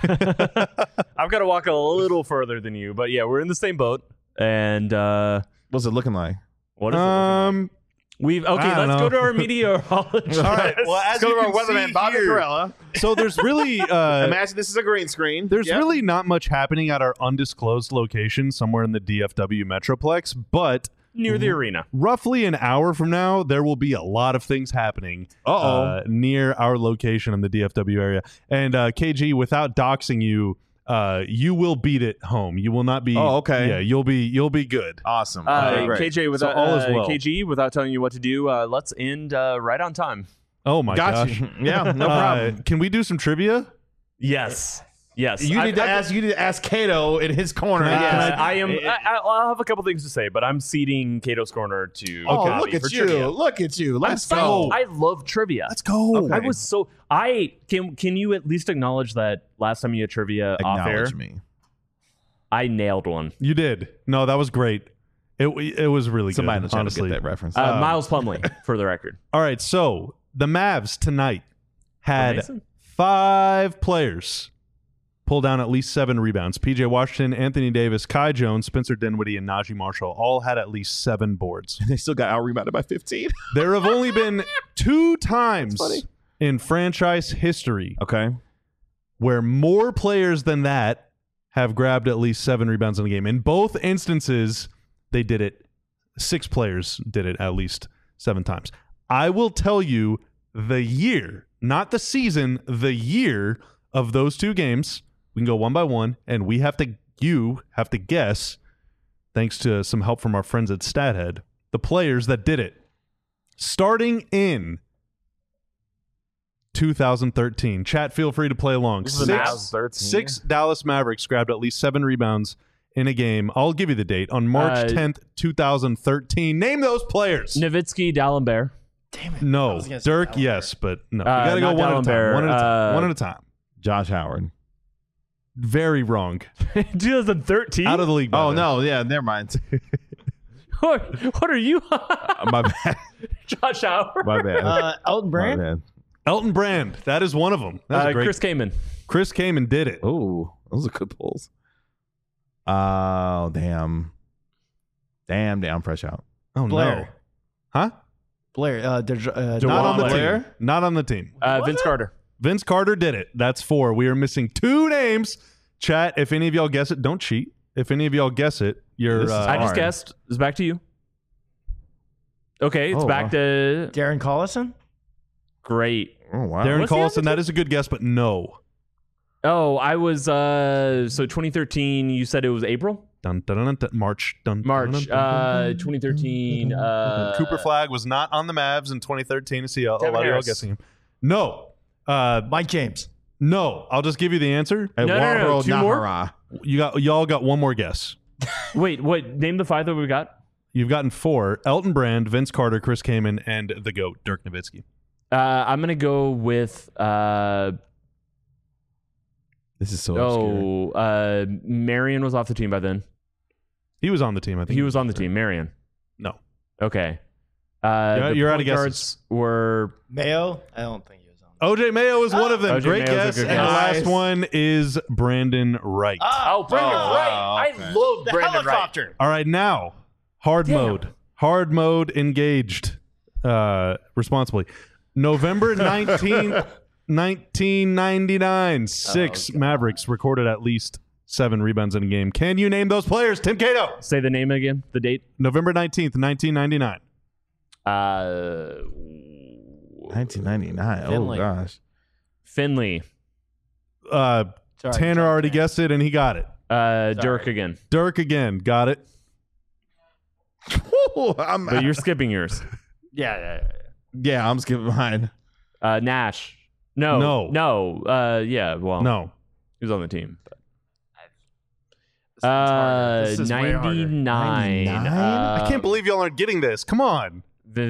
I've got to walk a little further than you, but yeah, we're in the same boat. And What's it looking like? what is it looking like? Let's go to our meteorologist. All right. Well, as Go you to our can weatherman, see Bobby here, Carella. so there's really Imagine this is a green screen. there's Yep. really not much happening at our undisclosed location somewhere in the DFW Metroplex, but Near the arena. roughly an hour from now, there will be a lot of things happening near our location in the DFW area. And KG, without doxing you, you will beat it home. You will not be. Oh, okay. Yeah, you'll be good. Awesome. Okay, great. KJ, without, all is well. KG, without telling you what to do, let's end right on time. Oh my Got gosh. you. Yeah, no problem. Can we do some trivia? Yes. You need to ask Cato in his corner. Can I- Yes. I'll have a couple things to say, but I'm ceding Cato's Corner to Oh, Bobby look for at you. trivia. Look at you. Let's I'm go. psyched. I love trivia. Let's go. Okay. I was so can you at least acknowledge that last time you had trivia off air? Acknowledge me. I nailed one. You did. No, that was great. It was really Somebody in good, the chat will honestly. get that reference. Miles Plumlee, for the record. All right, so the Mavs tonight had Mason? 5 players pull down at least 7 rebounds. PJ Washington, Anthony Davis, Kai Jones, Spencer Dinwiddie, and Najee Marshall all had at least 7 boards. They still got out rebounded by 15. There have only been 2 times funny. in franchise history Okay. where more players than that have grabbed at least 7 rebounds in a game. In both instances, they did it. 6 players did it at least 7 times. I will tell you the year, not the season, the year of those 2 games. We can go one by one, and you have to guess, thanks to some help from our friends at StatHead, the players that did it. Starting in 2013. Chat, feel free to play along. This is the Mavs 13. 6 Dallas Mavericks grabbed at least 7 rebounds in a game. I'll give you the date. On March 10th, 2013. Name those players. Nowitzki, D'Alembert. Damn it. No. was gonna say Dirk, D'Alembert. yes, but no. You got to go not one at a time. D'Alembert. One at a time. One at a time. Josh Howard. Very wrong. 2013? Out of the league. by Oh, then. no. Yeah, never mind. What are you? My bad. Josh Howard? My bad. Elton My Brand. bad. Elton Brand. That is one of them. That's a great. Chris Kaman. Chris Kaman did it. Oh, those are good pulls. Oh, damn. Damn, fresh out. Oh, no. Blair. Huh? Blair. Not DeJuan on the Blair. team. Not on the team. Vince Carter. Vince Carter did it. That's 4. We are missing 2 names. Chat, if any of y'all guess it, don't cheat. If any of y'all guess it, you're... This is I just hard. guessed. It's back to you. Okay, it's Oh, back wow. to... Darren Collison. Great. Oh, wow. Darren What's the Collison, other that is a good guess, but no. Oh, I was... so 2013, you said it was April? Dun, dun, dun, dun, dun. March. Dun, dun, March. dun, dun, dun. 2013... Cooper Flag was not on the Mavs in 2013. I see a lot Devin of y'all Harris. guessing him. No. Mike James. No. I'll just give you the answer. No, 2 more? Nahara. Y'all got one more guess. Wait, name the 5 that we got. You've gotten 4. Elton Brand, Vince Carter, Chris Kaman, and the GOAT, Dirk Nowitzki. I'm going to go with... This is so obscure. Marion was off the team by then. He was on the team, I think. He was on the team. Marion. No. Okay. You're out of point guesses. guards were... Mayo. I don't think he was on. OJ Mayo is one of them. O.J. Great Mayo's a guess. good And the guess. last one is Brandon Wright. Oh, Brandon Wright. wow, okay. I love The Brandon Wright. helicopter. All right, now, hard mode. Hard mode engaged responsibly. November 19th, 1999. 6 Mavericks recorded at least 7 rebounds in a game. Can you name those players? Tim Cato. Say the name again, the date. November 19th, 1999. 1999. Finley. Oh, gosh. Finley. Tanner Sorry, already guessed it, and he got it. Dirk again. Dirk again. Got it. But you're skipping yours. Yeah, I'm skipping mine. Nash. No. Yeah, well, No. he was on the team. But. This one's harder. This is way harder. 99. 99? I can't believe y'all aren't getting this. Come on.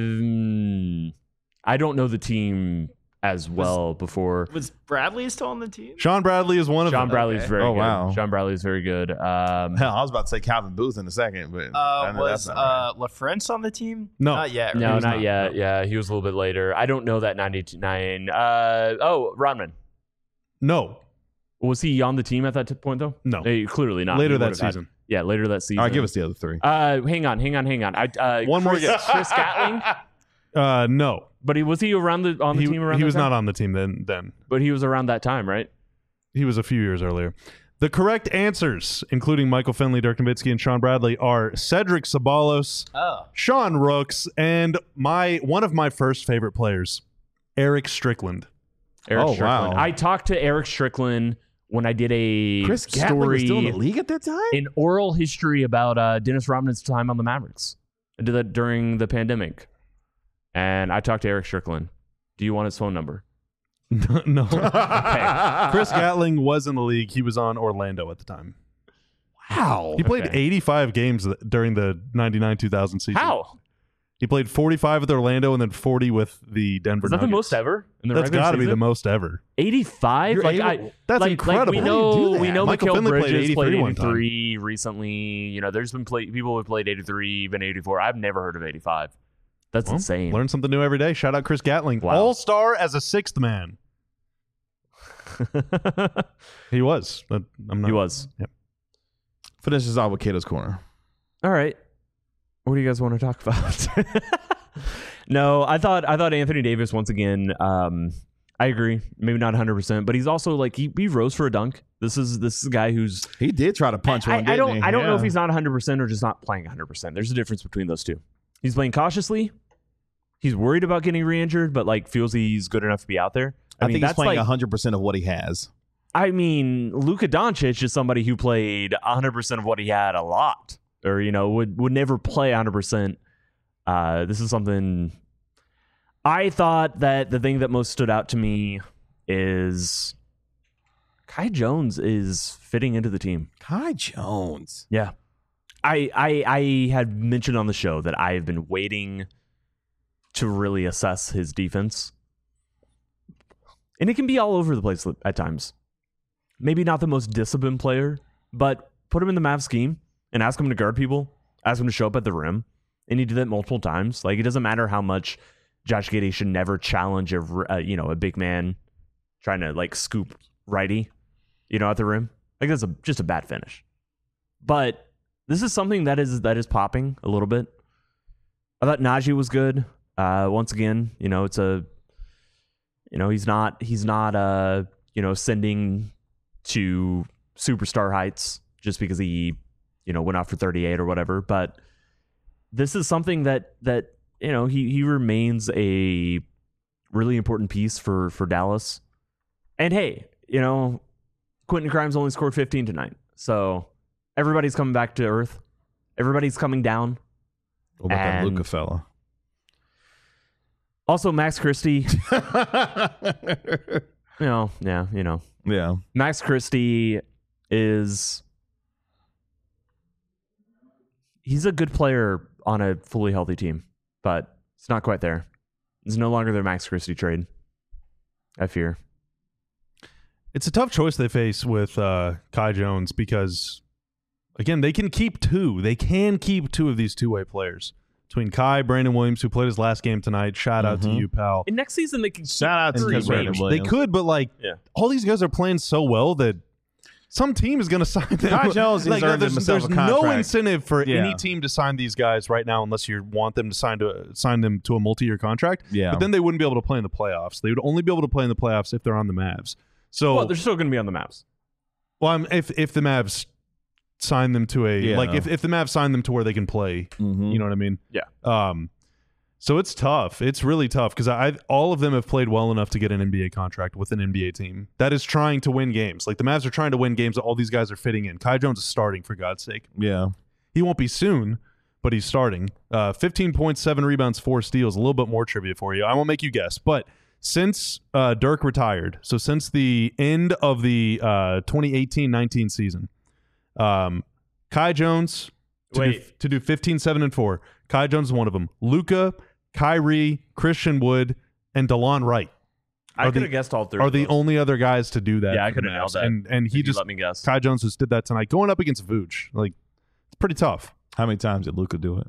I don't know the team as well before. Was Bradley still on the team? Sean Bradley is one of Sean them. Bradley's Okay. very Oh, good. wow. Sean Bradley's very good. Hell, I was about to say Calvin Booth in a second, but I know Was that's not right. LaFrance on the team? No. Not yet. No, right? not yet. Yeah, he was a little bit later. I don't know that 99. Rodman. No. Was he on the team at that point, though? No. Clearly not. Later He that would've had- season. yeah, later that season. All right, give us the other 3. Hang on. One more Chris, guess. Chris Gatling. No. But was he around on the team around? He that was time? not on the team then. But he was around that time, right? He was a few years earlier. The correct answers, including Michael Finley, Dirk Nowitzki, and Sean Bradley, are Cedric Sabalos, Oh. Sean Rooks, and one of my first favorite players, Eric Strickland. Eric Oh, Strickland. wow. I talked to Eric Strickland when I did a Chris Gatling was story, still in the league at that time? an oral history about Dennis Rodman's time on the Mavericks. I did that during the pandemic. And I talked to Eric Strickland. Do you want his phone number? No. Chris Gatling was in the league. He was on Orlando at the time. Wow. He played Okay. 85 games during the 99-2000 season. How? He played 45 with Orlando and then 40 with the Denver Is that Nuggets. the most ever in the That's regular got to be season? the most ever. 85? That's incredible. we How do you know do that? we know Michael Mikal Finley played Bridges 83 one time. 83 recently. You know, there's been people who've played 83, even 84. I've never heard of 85. That's Well, insane. Learn something new every day. Shout out Chris Gatling. Wow. All-star as a sixth man. He was. He was. Finish this off with Cato's Corner. All right. What do you guys want to talk about? No, I thought Anthony Davis once again. I agree, maybe not 100%, but he's also like he rose for a dunk. This is a guy who's He did try to punch one. I don't didn't he? know Yeah. if he's not 100% or just not playing 100%. There's a difference between those two. He's playing cautiously. He's worried about getting re-injured, but like feels he's good enough to be out there. I mean, think he's that's playing like 100% of what he has. I mean, Luka Doncic is somebody who played 100% of what he had a lot, or would never play 100%. This is something I thought that the thing that most stood out to me is Kai Jones is fitting into the team. Kai Jones. Yeah, I had mentioned on the show that I have been waiting to really assess his defense, and it can be all over the place at times. Maybe not the most disciplined player, but put him in the Mavs scheme and ask him to guard people, ask him to show up at the rim, and he did that multiple times. Like, it doesn't matter how much Josh Giddey should never challenge a big man trying to like scoop righty, at the rim. Like, that's just a bad finish. But this is something that is popping a little bit. I thought Najee was good. Once again, it's he's not ascending to superstar heights just because he went off for 38 or whatever, but this is something that he remains a really important piece for Dallas. And hey, Quentin Grimes only scored 15 tonight, so everybody's coming back to earth. Everybody's coming down. What about that And- Luka fella? Also, Max Christie. Yeah. Max Christie he's a good player on a fully healthy team, but it's not quite there. It's no longer their Max Christie trade, I fear. It's a tough choice they face with Kai Jones because, again, they can keep two. They can keep two of these two-way players. Between Kai, Brandon Williams, who played his last game tonight. Shout out to you, pal. And next season, they can Shout out to And Brandon range. Williams. They could, but all these guys are playing so well that some team is going to sign them. Kai Jones has earned there's himself a no contract. incentive for Yeah. any team to sign these guys right now unless you want them to sign them to a multi-year contract. Yeah. But then they wouldn't be able to play in the playoffs. They would only be able to play in the playoffs if they're on the Mavs. So, Well, they're still going to be on the Mavs. if the Mavs sign them to if the Mavs sign them to where they can play, you know what I mean? Yeah. So it's tough. It's really tough because all of them have played well enough to get an NBA contract with an NBA team that is trying to win games. Like the Mavs are trying to win games that all these guys are fitting in. Kai Jones is starting, for God's sake. Yeah. He won't be soon, but he's starting. 15 points, 7 rebounds, 4 steals. A little bit more trivia for you. I won't make you guess, but since Dirk retired, so since the end of the 2018-19 season, Kai Jones to do 15, 7, and 4. Kai Jones is one of them. Luka, Kyrie, Christian Wood, and DeLon Wright I could have guessed all three. are of the those. only other guys to do that. Yeah, I for the could have nailed Mavs. that. And If he you just let me guess. Kai Jones just did that tonight, going up against Vooch. Like, it's pretty tough. How many times did Luka do it?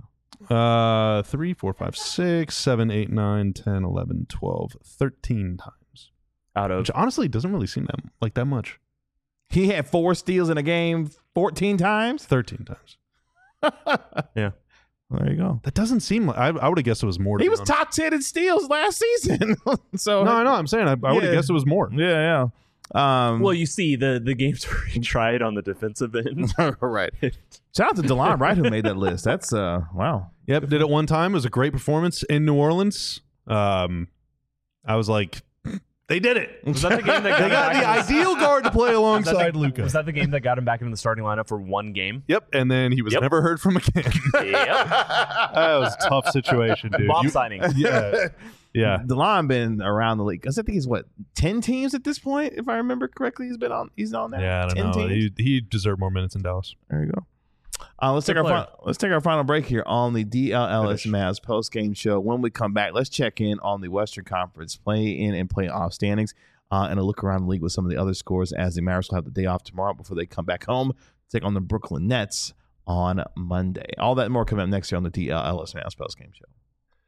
3, 4, 5, 6, 7, 8, 9, 10, 11, 12, 13 times. Out of Which honestly doesn't really seem that much. He had 4 steals in a game 14 times? 13 times. yeah. Well, there you go. That doesn't seem like I would have guessed it was more. He was top 10 in steals last season. So No, I know. I'm saying I would have Yeah. guessed it was more. Yeah. Well, you see, the games where he tried on the defensive end. right. Shout out to DeLon Wright who made that list. That's wow. Yep, did it one time. It was a great performance in New Orleans. I was like, they did it. Was that the game that They got the ideal guard to play alongside Was Luka. that the game that got him back into the starting lineup for one game? Yep, and then he was Yep. never heard from again. Yep. That was a tough situation, dude. Bob You- signing. Yeah, yeah. DeLon been around the league. Because I think he's 10 teams at this point, if I remember correctly. He's on there. Yeah, I don't 10 know. teams. He deserved more minutes in Dallas. There you go. Let's take our final break here on the DLLS Mavs post game show. When we come back, let's check in on the Western Conference play-in and play-off standings, and a look around the league with some of the other scores as the Mavericks will have the day off tomorrow before they come back home to take on the Brooklyn Nets on Monday. All that and more coming up next year on the DLLS Mavs post game show.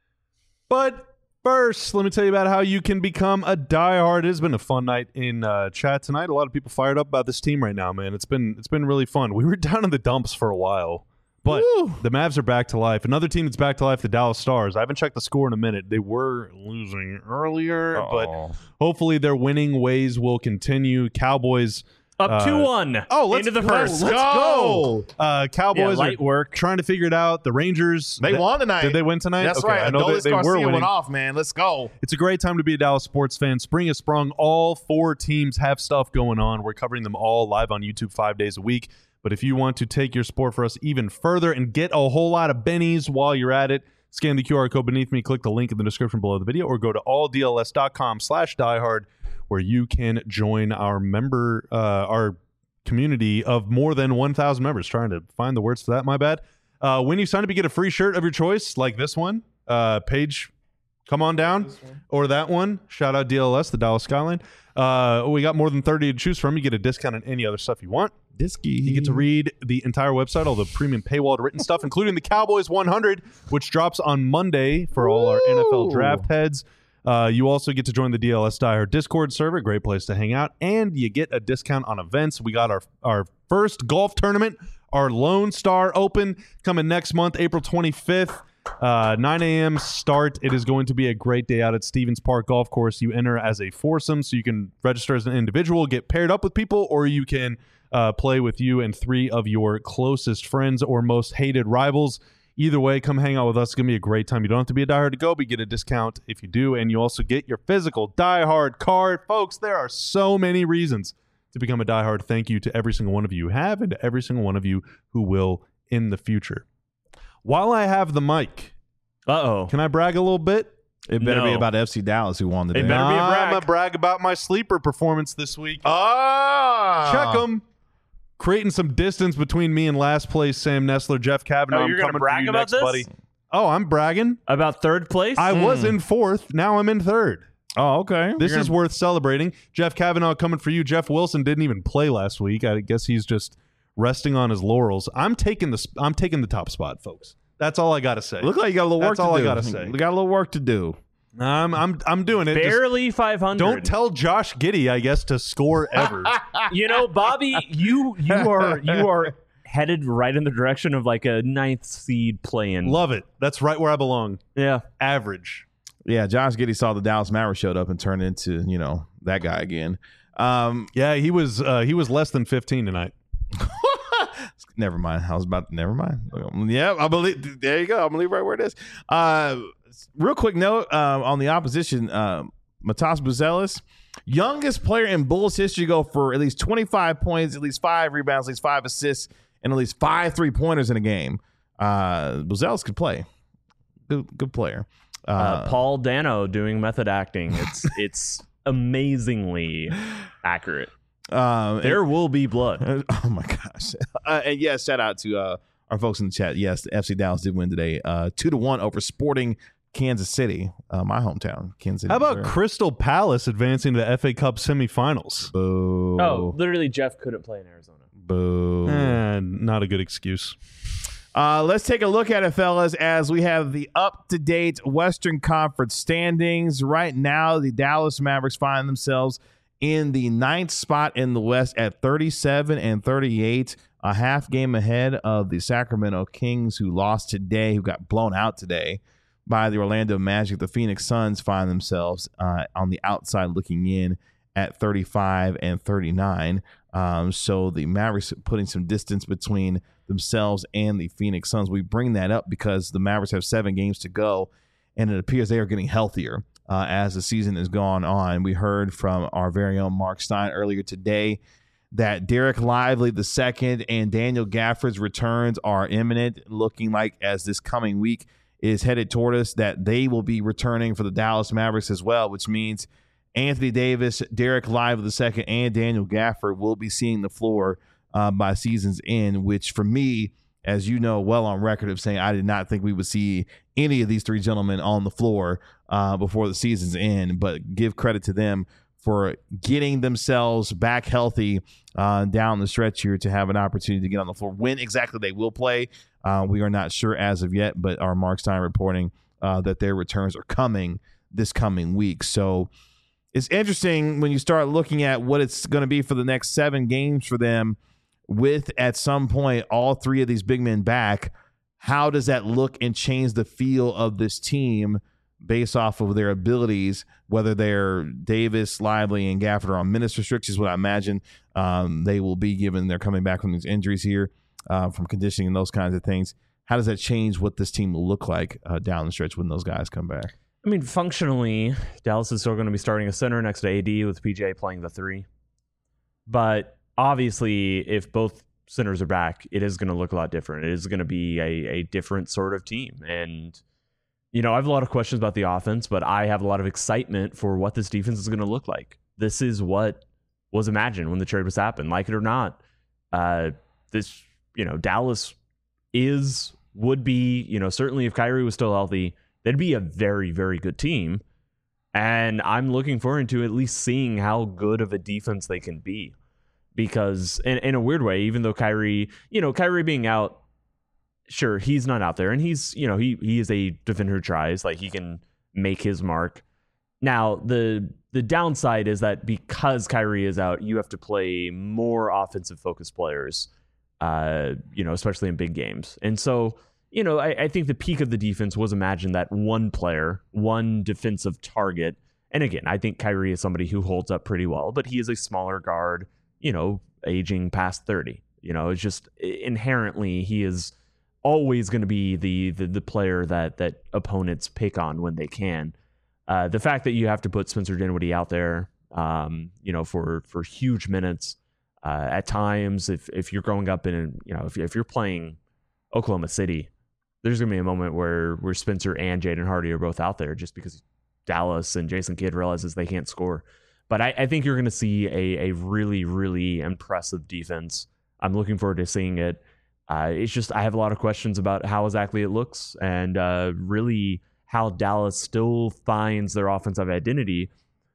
But first, let me tell you about how you can become a diehard. It has been a fun night in chat tonight. A lot of people fired up about this team right now, man. It's been really fun. We were down in the dumps for a while, but the Mavs are back to life. Another team that's back to life, the Dallas Stars. I haven't checked the score in a minute. They were losing earlier, but hopefully their winning ways will continue. Cowboys up 2-1. Into the first. Let's go. Cowboys light are work. trying to figure it out. The Rangers. They won tonight. Did they win tonight? That's okay, right. I know they were winning. Went off, man. Let's go. It's a great time to be a Dallas sports fan. Spring has sprung. All 4 teams have stuff going on. We're covering them all live on YouTube 5 days a week. But if you want to take your sport for us even further and get a whole lot of bennies while you're at it, scan the QR code beneath me, click the link in the description below the video, or go to alldls.com/diehard, where you can join our community of more than 1,000 members. Trying to find the words for that, my bad. When you sign up, you get a free shirt of your choice, like this one. Paige, come on down. Or that one. Shout out DLS, the Dallas Skyline. We got more than 30 to choose from. You get a discount on any other stuff you want. You get to read the entire website, all the premium paywalled written stuff, including the Cowboys 100, which drops on Monday for all our NFL draft heads. You also get to join the DLS Diehard Discord server, great place to hang out, and you get a discount on events. We got our first golf tournament, our Lone Star Open, coming next month, April 25th, 9 a.m. start. It is going to be a great day out at Stevens Park Golf Course. You enter as a foursome, so you can register as an individual, get paired up with people, or you can play with you and 3 of your closest friends or most hated rivals. Either way, come hang out with us. It's going to be a great time. You don't have to be a diehard to go, but you get a discount if you do, and you also get your physical diehard card. Folks, there are so many reasons to become a diehard. Thank you to every single one of you who have and to every single one of you who will in the future. While I have the mic, can I brag a little bit? It better be about FC Dallas who won the day. It better be a brag. I'm going to brag about my sleeper performance this week. Check them. Creating some distance between me and last place Sam Nessler, Jeff Kavanaugh. You're I'm coming brag for you about next, this? buddy. Oh, I'm bragging. About third place? I was in 4th. Now I'm in 3rd. Oh, okay. This is worth celebrating. Jeff Kavanaugh coming for you. Jeff Wilson didn't even play last week. I guess he's just resting on his laurels. I'm taking the top spot, folks. That's all I got to say. Look like you got a little work That's all to do. I got to say. We got a little work to do. I'm doing it. Barely 500. Don't tell Josh Giddey, I guess, to score ever. Bobby, you are headed right in the direction of like a 9th seed play-in. Love it. That's right where I belong. Yeah. Average. Yeah, Josh Giddey saw the Dallas Mavericks showed up and turned into, that guy again. Yeah, he was less than 15 tonight. Never mind. Never mind. Yeah, I believe. There you go. I believe right where it is. Real quick note on the opposition, Matas Buzelis, youngest player in Bulls history to go for at least 25 points, at least 5 rebounds, at least 5 assists, and at least 5 3-pointers in a game. Buzelis could play. Good player. Paul Dano doing method acting. It's amazingly accurate. There will be blood. Oh my gosh. And yes, shout out to our folks in the chat. Yes, the FC Dallas did win today, 2-1 over Sporting Kansas City, my hometown, Kansas City. How about Missouri. Crystal Palace advancing to the FA Cup semifinals? Boo. Oh, literally, Jeff couldn't play in Arizona. Boo. Not a good excuse. Let's take a look at it, fellas, as we have the up-to-date Western Conference standings. Right now, the Dallas Mavericks find themselves in the 9th spot in the West at 37-38, a half game ahead of the Sacramento Kings, who lost today, who got blown out today by the Orlando Magic. The Phoenix Suns find themselves on the outside looking in at 35-39. So the Mavericks putting some distance between themselves and the Phoenix Suns. We bring that up because the Mavericks have 7 games to go, and it appears they are getting healthier as the season has gone on. We heard from our very own Mark Stein earlier today that Derek Lively II and Daniel Gafford's returns are imminent, looking like as this coming week is headed toward us that they will be returning for the Dallas Mavericks as well, which means Anthony Davis, Derek Lively II, and Daniel Gafford will be seeing the floor by season's end, which for me, as you know, well on record of saying I did not think we would see any of these three gentlemen on the floor before the season's end, but give credit to them for getting themselves back healthy down the stretch here to have an opportunity to get on the floor. When exactly they will play, we are not sure as of yet, but our Mark Stein reporting that their returns are coming this coming week. So it's interesting when you start looking at what it's going to be for the next 7 games for them with, at some point, all 3 of these big men back. How does that look and change the feel of this team based off of their abilities, whether they're Davis, Lively, and Gafford are on minutes restrictions, what I imagine they will be given they're coming back from these injuries here, from conditioning and those kinds of things. How does that change what this team will look like down the stretch when those guys come back? I mean, functionally, Dallas is still going to be starting a center next to AD with PJ playing the 3. But obviously, if both centers are back, it is going to look a lot different. It is going to be a different sort of team. And, you know, I have a lot of questions about the offense, but I have a lot of excitement for what this defense is going to look like. This is what was imagined when the trade was happened. Like it or not, this, you know, Dallas would be, you know, certainly if Kyrie was still healthy, they'd be a very, very good team. And I'm looking forward to at least seeing how good of a defense they can be. Because in a weird way, even though Kyrie being out, sure, he's not out there. And he's, you know, he is a defender who tries, like he can make his mark. Now, the downside is that because Kyrie is out, you have to play more offensive focused players, you know, especially in big games. And so, you know, I think the peak of the defense was imagined that one player, one defensive target. And again, I think Kyrie is somebody who holds up pretty well, but he is a smaller guard, you know, aging past 30. You know, it's just inherently he is always going to be the player that opponents pick on when they can. The fact that you have to put Spencer Dinwiddie out there, you know, for huge minutes at times, if you're growing up in, you know, if you're playing Oklahoma City, there's going to be a moment where Spencer and Jaden Hardy are both out there just because Dallas and Jason Kidd realizes they can't score. But I think you're going to see a really, really impressive defense. I'm looking forward to seeing it. It's just I have a lot of questions about how exactly it looks and really how Dallas still finds their offensive identity,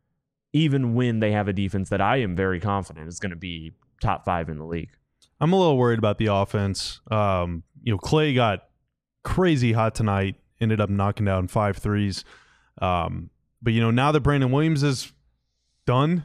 even when they have a defense that I am very confident is going to be top 5 in the league. I'm a little worried about the offense. You know, Clay got crazy hot tonight, ended up knocking down 5 threes. But, you know, now that Brandon Williams is done,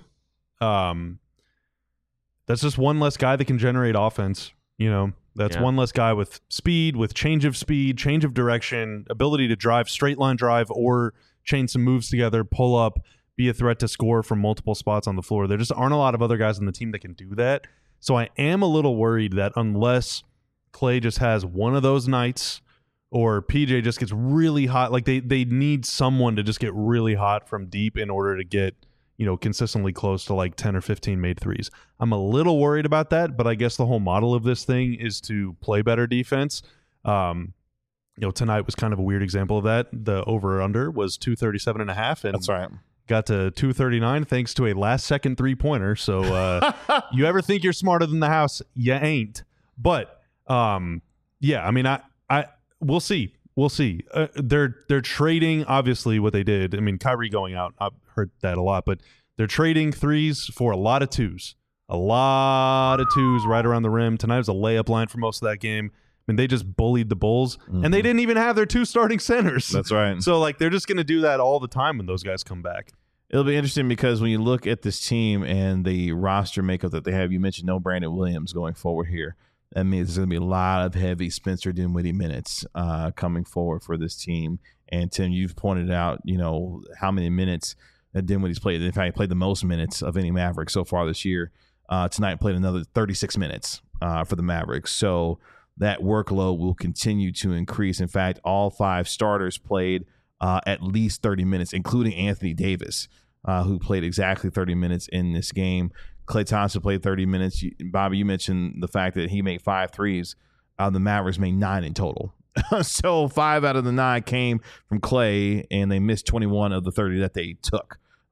that's just one less guy that can generate offense. You know, that's one less guy with speed, with change of direction, ability to drive, straight line drive, or chain some moves together, pull up, be a threat to score from multiple spots on the floor. There just aren't a lot of other guys on the team that can do that. So I am a little worried that unless Clay just has one of those nights or PJ just gets really hot, like they need someone to just get really hot from deep in order to get, you know, consistently close to like 10 or 15 made threes. I'm a little worried about that, but I guess the whole model of this thing is to play better defense. You know, tonight was kind of a weird example of that. The over-under was 237.5, and That's right. got to 239 thanks to a last-second three-pointer. So you ever think you're smarter than the house? You ain't. But, yeah, I mean, we'll see. We'll see. They're trading, obviously, what they did. I mean, Kyrie going out, I've heard that a lot, but they're trading threes for a lot of twos. A lot of twos right around the rim. Tonight was a layup line for most of that game. I mean, they just bullied the Bulls, and they didn't even have their 2 starting centers. That's right. So, like, they're just going to do that all the time when those guys come back. It'll be interesting because when you look at this team and the roster makeup that they have, you mentioned no Brandon Williams going forward here. That means there's going to be a lot of heavy Spencer Dinwiddie minutes coming forward for this team. And, Tim, you've pointed out, you know, how many minutes that Dinwiddie's played. In fact, he played the most minutes of any Maverick so far this year. Tonight played another 36 minutes for the Mavericks. So that workload will continue to increase. In fact, all 5 starters played at least 30 minutes, including Anthony Davis, who played exactly 30 minutes in this game. Klay Thompson played 30 minutes. Bobby, you mentioned the fact that he made 5 threes. The Mavericks made 9 in total. So 5 out of the 9 came from Klay, and they missed 21 of the 30 that they took.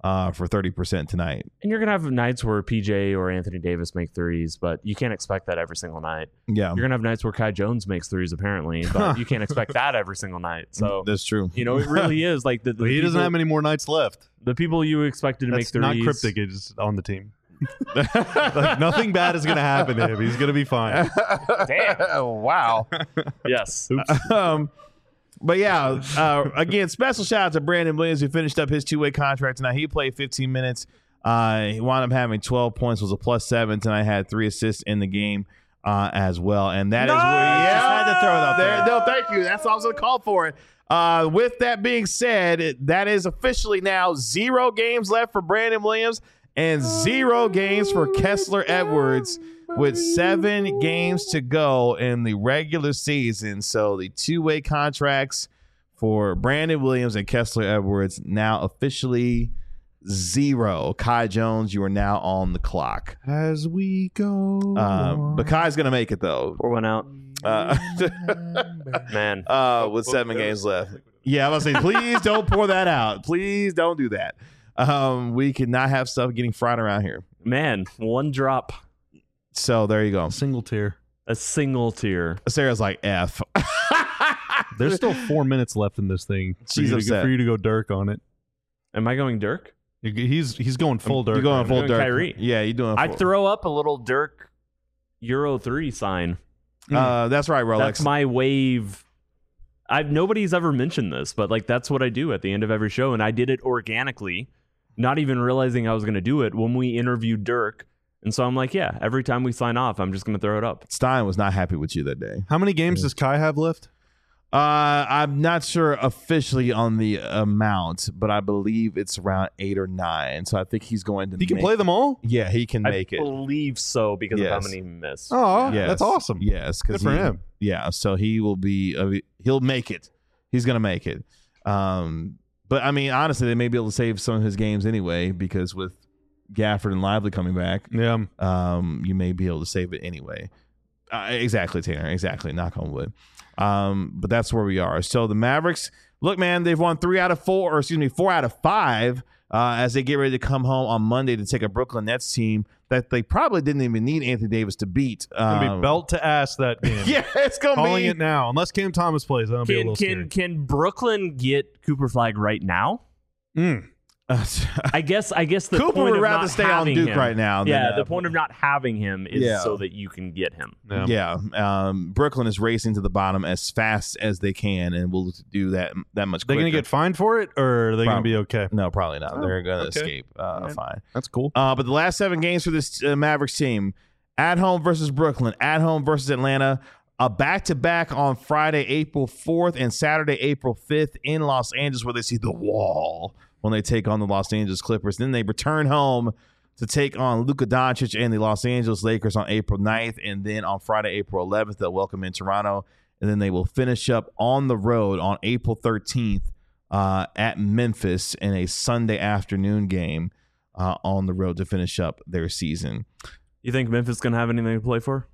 for 30% tonight. And you're going to have nights where PJ or Anthony Davis make threes, but you can't expect that every single night. Yeah, You're going to have nights where Kai Jones makes threes, apparently, but you can't expect that every single night. So, that's true. it really is like the He doesn't have many more nights left. the people you expected to make That's threes. not cryptic. It's on the team. Like, nothing bad is going to happen to him. He's going to be fine. Damn! Wow. Yes. But yeah, again, special shout out to Brandon Williams, who finished up his 2-way contract tonight. He played 15 minutes. He wound up having 12 points, was a +7 tonight. Had 3 assists in the game as well, and that is where Just had to throw it out there. No, thank you. That's why I was going to call for it. With that being said, that is officially now 0 games left for Brandon Williams and 0 games for Kessler Edwards, with 7 games to go in the regular season. So the 2-way contracts for Brandon Williams and Kessler Edwards now officially 0. Kai Jones, you are now on the clock. As we go. But Kai's going to make it, though. Pour one out. Man. With 7 games left. Yeah, I was saying, please don't pour that out. Please don't do that. We cannot have stuff getting fried around here. Man, one drop. So there you go. Single tier. A single tier. Sarah's like, F. There's still 4 minutes left in this thing. She's upset. For you to go Dirk on it. Am I going Dirk? He's going full Dirk. You're going full doing Dirk. Kyrie. Yeah, you're doing I'd throw up a little Dirk Euro 3 sign. That's right, Rolex. That's my wave. Nobody's ever mentioned this, but like that's what I do at the end of every show, and I did it organically, not even realizing I was going to do it when we interviewed Dirk. And so I'm like, yeah, every time we sign off, I'm just going to throw it up. Stein was not happy with you that day. How many games does Kai have left? I'm not sure officially on the amount, but I believe it's around 8 or 9. So I think he's going to. He can play them all? Yeah, he can make I it. believe so because of how Yes. many he missed. Oh, Yes. that's awesome. Yes, Good for him. Yeah, so he will be. He'll make it. He's gonna make it. But I mean, honestly, they may be able to save some of his games anyway because with Gafford and Lively coming back, Yeah. you may be able to save it anyway. Exactly, Tanner. Exactly. Knock on wood. But that's where we are. So the Mavericks, look, man, they've won 4 out of 5 as they get ready to come home on Monday to take a Brooklyn Nets team that they probably didn't even need Anthony Davis to beat. It's going to be belt to ass that game. Yeah, it's going to be. Calling it now. Unless Cam Thomas plays, that'll be a little scary. Can Brooklyn get Cooper Flag right now? I guess the Cooper point would of rather not stay on having Duke him- right now. Yeah, than, the point of not having him is so that you can get him. Yeah, Brooklyn is racing to the bottom as fast as they can, and will do that much quicker. They're going to get fined for it, or are they going to be okay? No, probably not. They're going to okay. escape fine. That's cool. But the last 7 games for this Mavericks team: at home versus Brooklyn, at home versus Atlanta, a back-to-back on Friday, April 4th, and Saturday, April 5th in Los Angeles, where they see the Wall when they take on the Los Angeles Clippers. Then they return home to take on Luka Doncic and the Los Angeles Lakers on April 9th. And then on Friday, April 11th, they'll welcome in Toronto. And then they will finish up on the road on April 13th at Memphis in a Sunday afternoon game on the road to finish up their season. You think Memphis going to have anything to play for?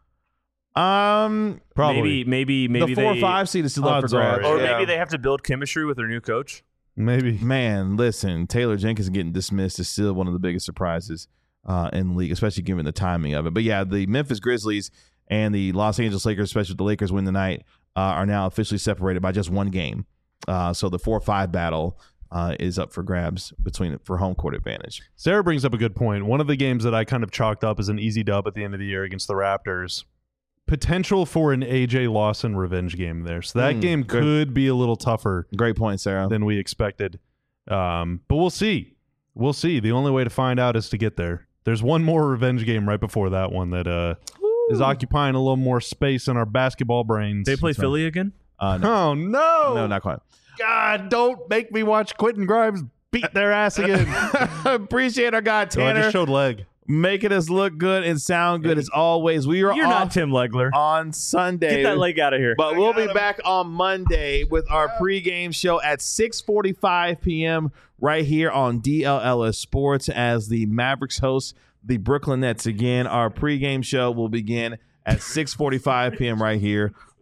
Probably. Maybe the 4 or 5 seed is still up for Odds are, grabs. Or Yeah. maybe they have to build chemistry with their new coach. Maybe. Man, listen, Taylor Jenkins getting dismissed is still one of the biggest surprises in the league, especially given the timing of it. But yeah, the Memphis Grizzlies and the Los Angeles Lakers, especially if the Lakers win tonight, are now officially separated by just 1 game. So the 4-5 battle is up for grabs for home court advantage. Sarah brings up a good point. One of the games that I kind of chalked up as an easy dub at the end of the year against the Raptors. Potential for an AJ Lawson revenge game there. So that game could be a little tougher. Great point, Sarah. Than we expected. But we'll see. We'll see. The only way to find out is to get there. There's one more revenge game right before that one that is occupying a little more space in our basketball brains. They play Philly again? No. Oh, no. No, not quite. God, don't make me watch Quentin Grimes beat their ass again. Appreciate our guy, So I Tanner, just showed leg. making us look good and sound good as always. We are You're off not Tim Legler. on Sunday. Get that leg out of here. But we'll be back on Monday with our pregame show at 6:45 p.m. right here on DLLS Sports as the Mavericks host the Brooklyn Nets again. Our pregame show will begin at 6:45 p.m. right here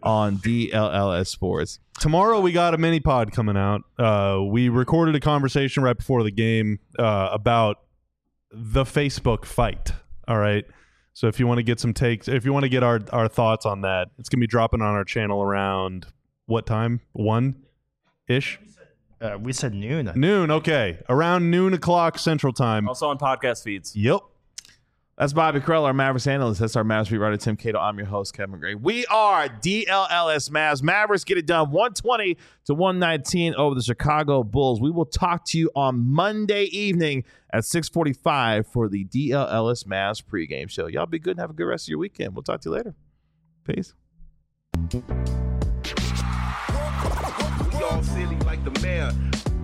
on DLLS Sports. Tomorrow we got a mini pod coming out. We recorded a conversation right before the game about the Facebook fight. All right. So if you want to get some takes, if you want to get our thoughts on that, it's going to be dropping on our channel around what time? 1-ish? We said noon. Noon. Okay. Around noon o'clock Central Time. Also on podcast feeds. Yep. That's Bobby Carell, our Mavericks analyst. That's our Mavericks beat writer, Tim Cato. I'm your host, Kevin Gray. We are DLLS Mavs. Mavericks get it done 120-119 over the Chicago Bulls. We will talk to you on Monday evening at 6:45 for the DLLS Mavs pregame show. Y'all be good and have a good rest of your weekend. We'll talk to you later. Peace. We all silly like the mayor.